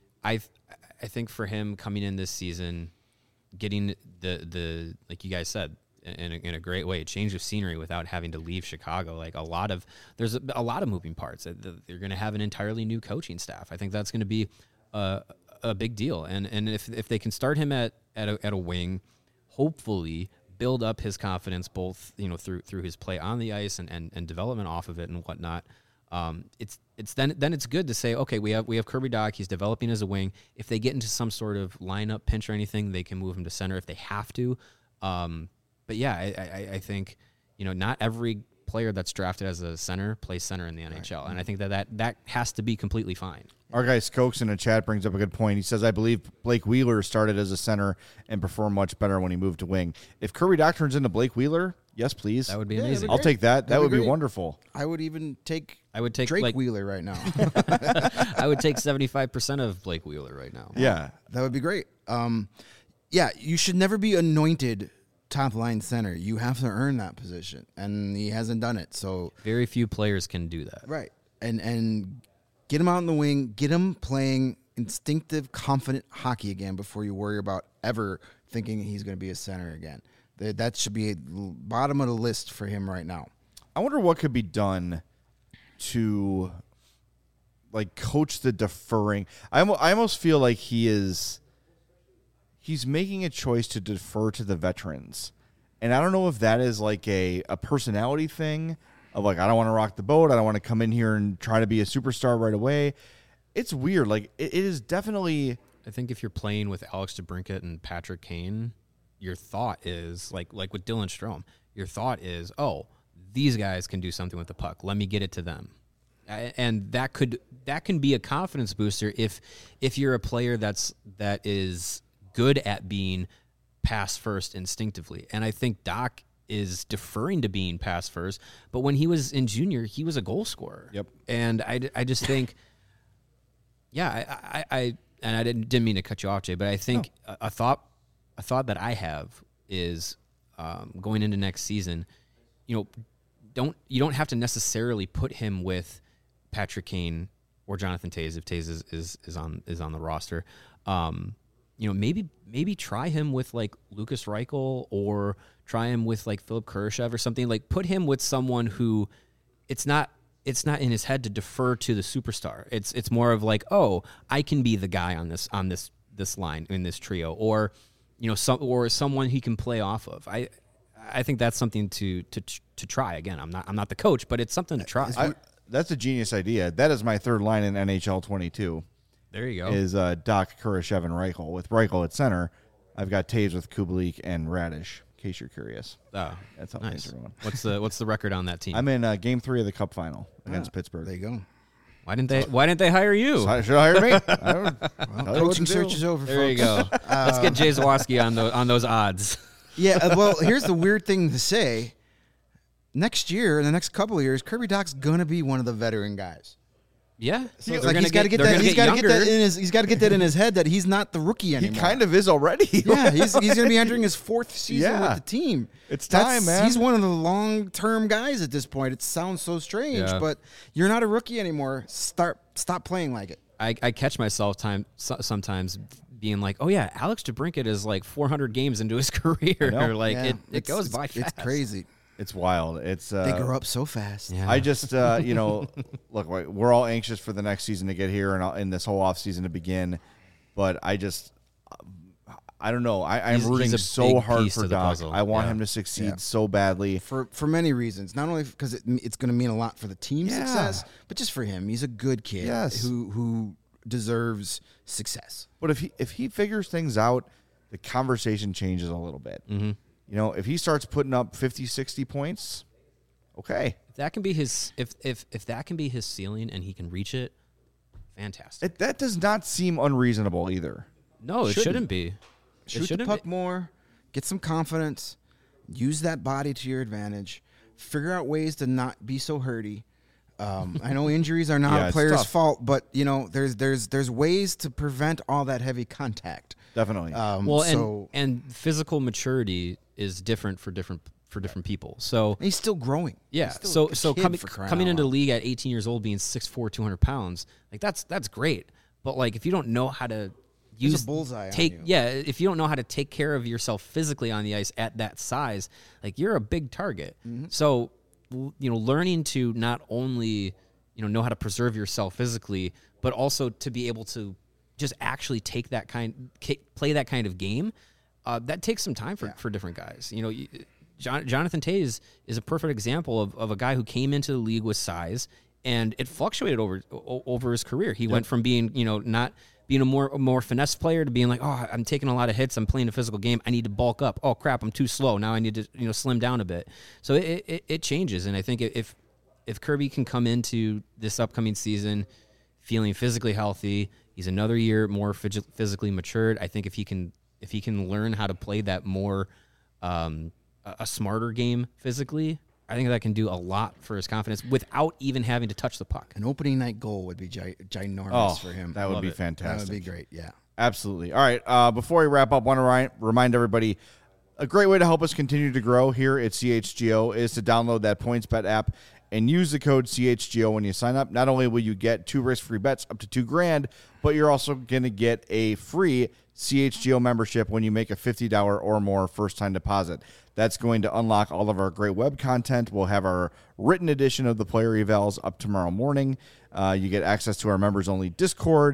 I I think for him coming in this season, getting the the like you guys said in a, in a great way, change of scenery without having to leave Chicago. Like a lot of there's a, a lot of moving parts. They're going to have an entirely new coaching staff. I think that's going to be a, a big deal. And and if if they can start him at at a, at a wing, hopefully build up his confidence both you know through through his play on the ice and and, and development off of it and whatnot. Um, it's it's then then it's good to say, okay, we have we have Kirby Dach. He's developing as a wing. If they get into some sort of lineup pinch or anything, they can move him to center if they have to. Um, but yeah, I, I, I think you know not every player that's drafted as a center plays center in the N H L, and I think that, that that has to be completely fine. Our guy Skokes in the chat brings up a good point. He says, I believe Blake Wheeler started as a center and performed much better when he moved to wing. If Kirby Dach turns into Blake Wheeler, yes, please. That would be Yeah, that'd amazing. be I'll great. take that. That That'd would be be great. wonderful. I would even take I would take Drake like Wheeler right now. I would take seventy-five percent of Blake Wheeler right now. Yeah. That would be great. Um, yeah, you should never be anointed top line center. You have to earn that position, and he hasn't done it. So Very few players can do that. right, and and get him out in the wing, get him playing instinctive, confident hockey again before you worry about ever thinking he's going to be a center again. That that should be bottom of the list for him right now. I wonder what could be done to like coach the deferring. I almo- I almost feel like he is he's making a choice to defer to the veterans. And I don't know if that is like a, a personality thing of like, I don't want to rock the boat. I don't want to come in here and try to be a superstar right away. It's weird. Like, it, it is definitely. I think if you're playing with Alex DeBrincat and Patrick Kane, your thought is like like with Dylan Strome. Your thought is, oh, these guys can do something with the puck. Let me get it to them, and that could that can be a confidence booster if if you're a player that's that is good at being pass first instinctively. And I think Doc is deferring to being pass first, but when he was in junior, he was a goal scorer. Yep. And I, I just think, yeah, I, I, I and I didn't didn't mean to cut you off, Jay, but I think no. a, a thought a thought that I have is um, going into next season, you know, don't you don't have to necessarily put him with Patrick Kane or Jonathan Toews if Toews is, is is on is on the roster. Um, you know, maybe maybe try him with like Lucas Reichel or try him with like Philip Kurashev or something. Like put him with someone who it's not it's not in his head to defer to the superstar. It's it's more of like, oh, I can be the guy on this on this this line in this trio, or you know, some or someone he can play off of. I I think that's something to to to try. Again, I'm not I'm not the coach, but it's something to try. I, that's a genius idea. That is my third line in N H L twenty-two. There you go. Is uh, Doc, Kurashev, and Reichel. With Reichel at center, I've got Toews with Kubalik and Radish, in case you're curious. Oh, that's how nice. things are going. What's the what's the record on that team? I'm in uh, game three of the Cup final against ah, Pittsburgh. There you go. Why didn't they Why didn't they hire you? So should I hire me? I don't, well, coaching search is over, there folks. you go. Uh, Let's get Jay Zawaski on, the, on those odds. Yeah, uh, well, here's the weird thing to say. Next year, in the next couple of years, Kirby Doc's going to be one of the veteran guys. Yeah, so like he's got to get that. He's got to get that in his. He's got to get that in his head that he's not the rookie anymore. He kind of is already. Yeah, he's he's going to be entering his fourth season yeah. with the team. It's time, That's, man. He's one of the long-term guys at this point. It sounds so strange, yeah. but you're not a rookie anymore. Start stop playing like it. I, I catch myself time sometimes being like, oh yeah, Alex DeBrincat is like four hundred games into his career. Like yeah. it, it it's, goes it's, by fast. It's crazy. It's wild. It's uh, they grow up so fast. Yeah. I just, uh, you know, look, we're all anxious for the next season to get here and in this whole off season to begin. But I just, I don't know. I, I'm he's, rooting he's so hard for Doc. puzzle. I want yeah. him to succeed yeah. so badly for for many reasons. Not only because it, it's going to mean a lot for the team's yeah. success, but just for him. He's a good kid yes. who who deserves success. But if he if he figures things out, the conversation changes a little bit. Mm-hmm. You know, if he starts putting up fifty, sixty points, okay. If that can be his if if if that can be his ceiling and he can reach it, fantastic. It, that does not seem unreasonable either. No, it Shouldn't. shouldn't be. Shoot it shouldn't the puck be. more, get some confidence, use that body to your advantage, figure out ways to not be so hurty. Um, I know injuries are not Yeah, a it's player's tough. fault, but you know there's there's there's ways to prevent all that heavy contact. Definitely. Um, Well, so and and physical maturity is different for different for different people. So he's still growing. yeah, He's still so a so kid coming for crying coming out into the loud. league at eighteen years old, being six foot four, two hundred pounds, like that's that's great. But like if you don't know how to There's a use bullseye on take you. yeah, if you don't know how to take care of yourself physically on the ice at that size, like you're a big target. Mm-hmm. So l- you know, learning to not only you know know how to preserve yourself physically, but also to be able to just actually take that kind ca- play that kind of game. Uh, that takes some time for, Yeah. for different guys. You know, you, John, Jonathan Toews is a perfect example of, of a guy who came into the league with size, and it fluctuated over o- over his career. He went from being, you know, not being a more a more finesse player to being like, oh, I'm taking a lot of hits. I'm playing a physical game. I need to bulk up. Oh crap, I'm too slow. Now I need to you know slim down a bit. So it it, it changes, and I think if if Kirby can come into this upcoming season feeling physically healthy, he's another year more phys- physically matured. I think if he can if he can learn how to play that more um, a, a smarter game physically, I think that can do a lot for his confidence without even having to touch the puck. An opening night goal would be gi- ginormous Oh, for him. that would Love be it. fantastic. That would be great. Yeah. Absolutely. All right. Uh, before we wrap up, want to ri- remind everybody a great way to help us continue to grow here at C H G O is to download that PointsBet app and use the code C H G O when you sign up. Not only will you get two risk-free bets up to two grand, but you're also going to get a free C H G O membership when you make a fifty dollars or more first-time deposit. That's going to unlock all of our great web content. We'll have our written edition of the player evals up tomorrow morning. Uh, you get access to our members-only Discord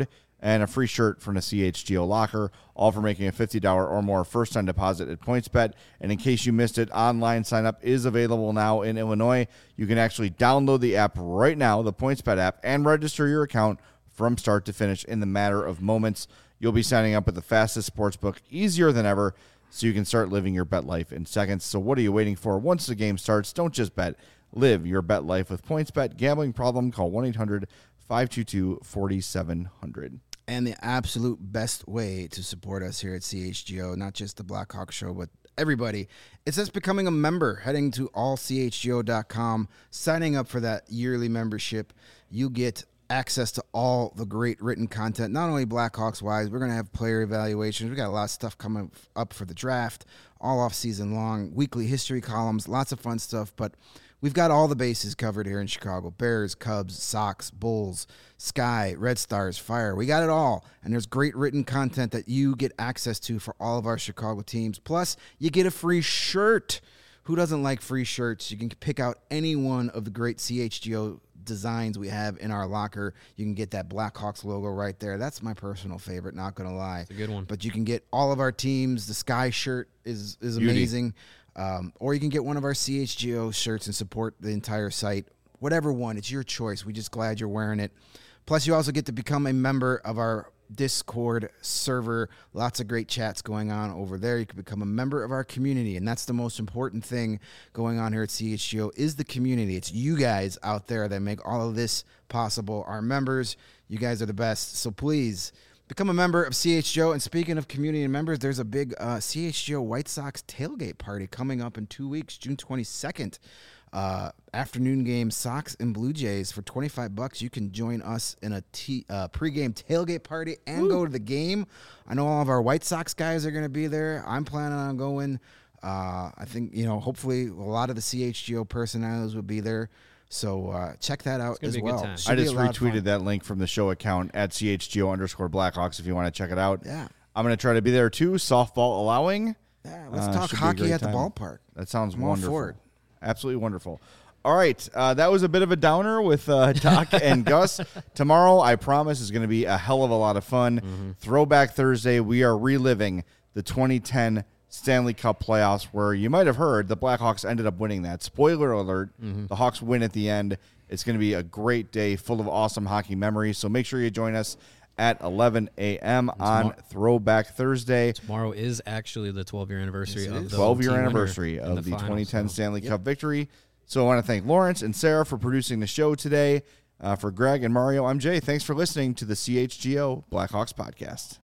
and a free shirt from the C H G O locker, all for making a fifty dollars or more first-time deposit at PointsBet. And in case you missed it, online sign-up is available now in Illinois. You can actually download the app right now, the PointsBet app, and register your account from start to finish in the matter of moments. You'll be signing up with the fastest sportsbook, easier than ever, so you can start living your bet life in seconds. So what are you waiting for? Once the game starts, don't just bet. Live your bet life with PointsBet. Gambling problem? Call one eight hundred five two two four seven zero zero. And the absolute best way to support us here at C H G O, not just the Blackhawk Show, but everybody, it's just becoming a member, heading to all c h g o dot com, signing up for that yearly membership. You get access to all the great written content, not only Blackhawks-wise. We're going to have player evaluations. We got a lot of stuff coming up for the draft, all off-season long, weekly history columns, lots of fun stuff, but we've got all the bases covered here in Chicago. Bears, Cubs, Sox, Bulls, Sky, Red Stars, Fire. We got it all. And there's great written content that you get access to for all of our Chicago teams. Plus, you get a free shirt. Who doesn't like free shirts? You can pick out any one of the great C H G O designs we have in our locker. You can get that Blackhawks logo right there. That's my personal favorite, not going to lie. It's a good one. But you can get all of our teams. The Sky shirt is, is Beauty. amazing. Um, or you can get one of our C H G O shirts and support the entire site. Whatever one, it's your choice. We're just glad you're wearing it. Plus, you also get to become a member of our Discord server. Lots of great chats going on over there. You can become a member of our community, and that's the most important thing going on here at C H G O is the community. It's you guys out there that make all of this possible. Our members, you guys are the best. So please become a member of C H G O. And speaking of community and members, there's a big uh, C H G O White Sox tailgate party coming up in two weeks, June twenty-second. Uh, afternoon game, Sox and Blue Jays for twenty-five bucks. You can join us in a t- uh, pregame tailgate party and Woo. go to the game. I know all of our White Sox guys are going to be there. I'm planning on going. Uh, I think, you know, hopefully a lot of the C H G O personalities will be there. So uh, check that out as well. I just retweeted that link from the show account at C H G O underscore Blackhawks if you want to check it out. Yeah. I'm going to try to be there too, softball allowing. Yeah, let's Uh, talk should be a hockey great at the time. ballpark. That sounds I'm all wonderful. for it. Absolutely wonderful. All right, uh, that was a bit of a downer with uh, Doc and Gus. Tomorrow, I promise, is going to be a hell of a lot of fun. Mm-hmm. Throwback Thursday, we are reliving the twenty ten Stanley Cup playoffs, where you might have heard the Blackhawks ended up winning that. Spoiler alert, Mm-hmm. the Hawks win at the end. It's going to be a great day full of awesome hockey memories, so make sure you join us at eleven a.m. on Throwback Thursday. Tomorrow is actually the twelve-year anniversary Yes, it of is. the twelve-year team winner anniversary in of the, final, twenty ten so- Stanley Yep. Cup victory. So I want to thank Lawrence and Sarah for producing the show today. Uh, for Greg and Mario, I'm Jay. Thanks for listening to the C H G O Blackhawks podcast.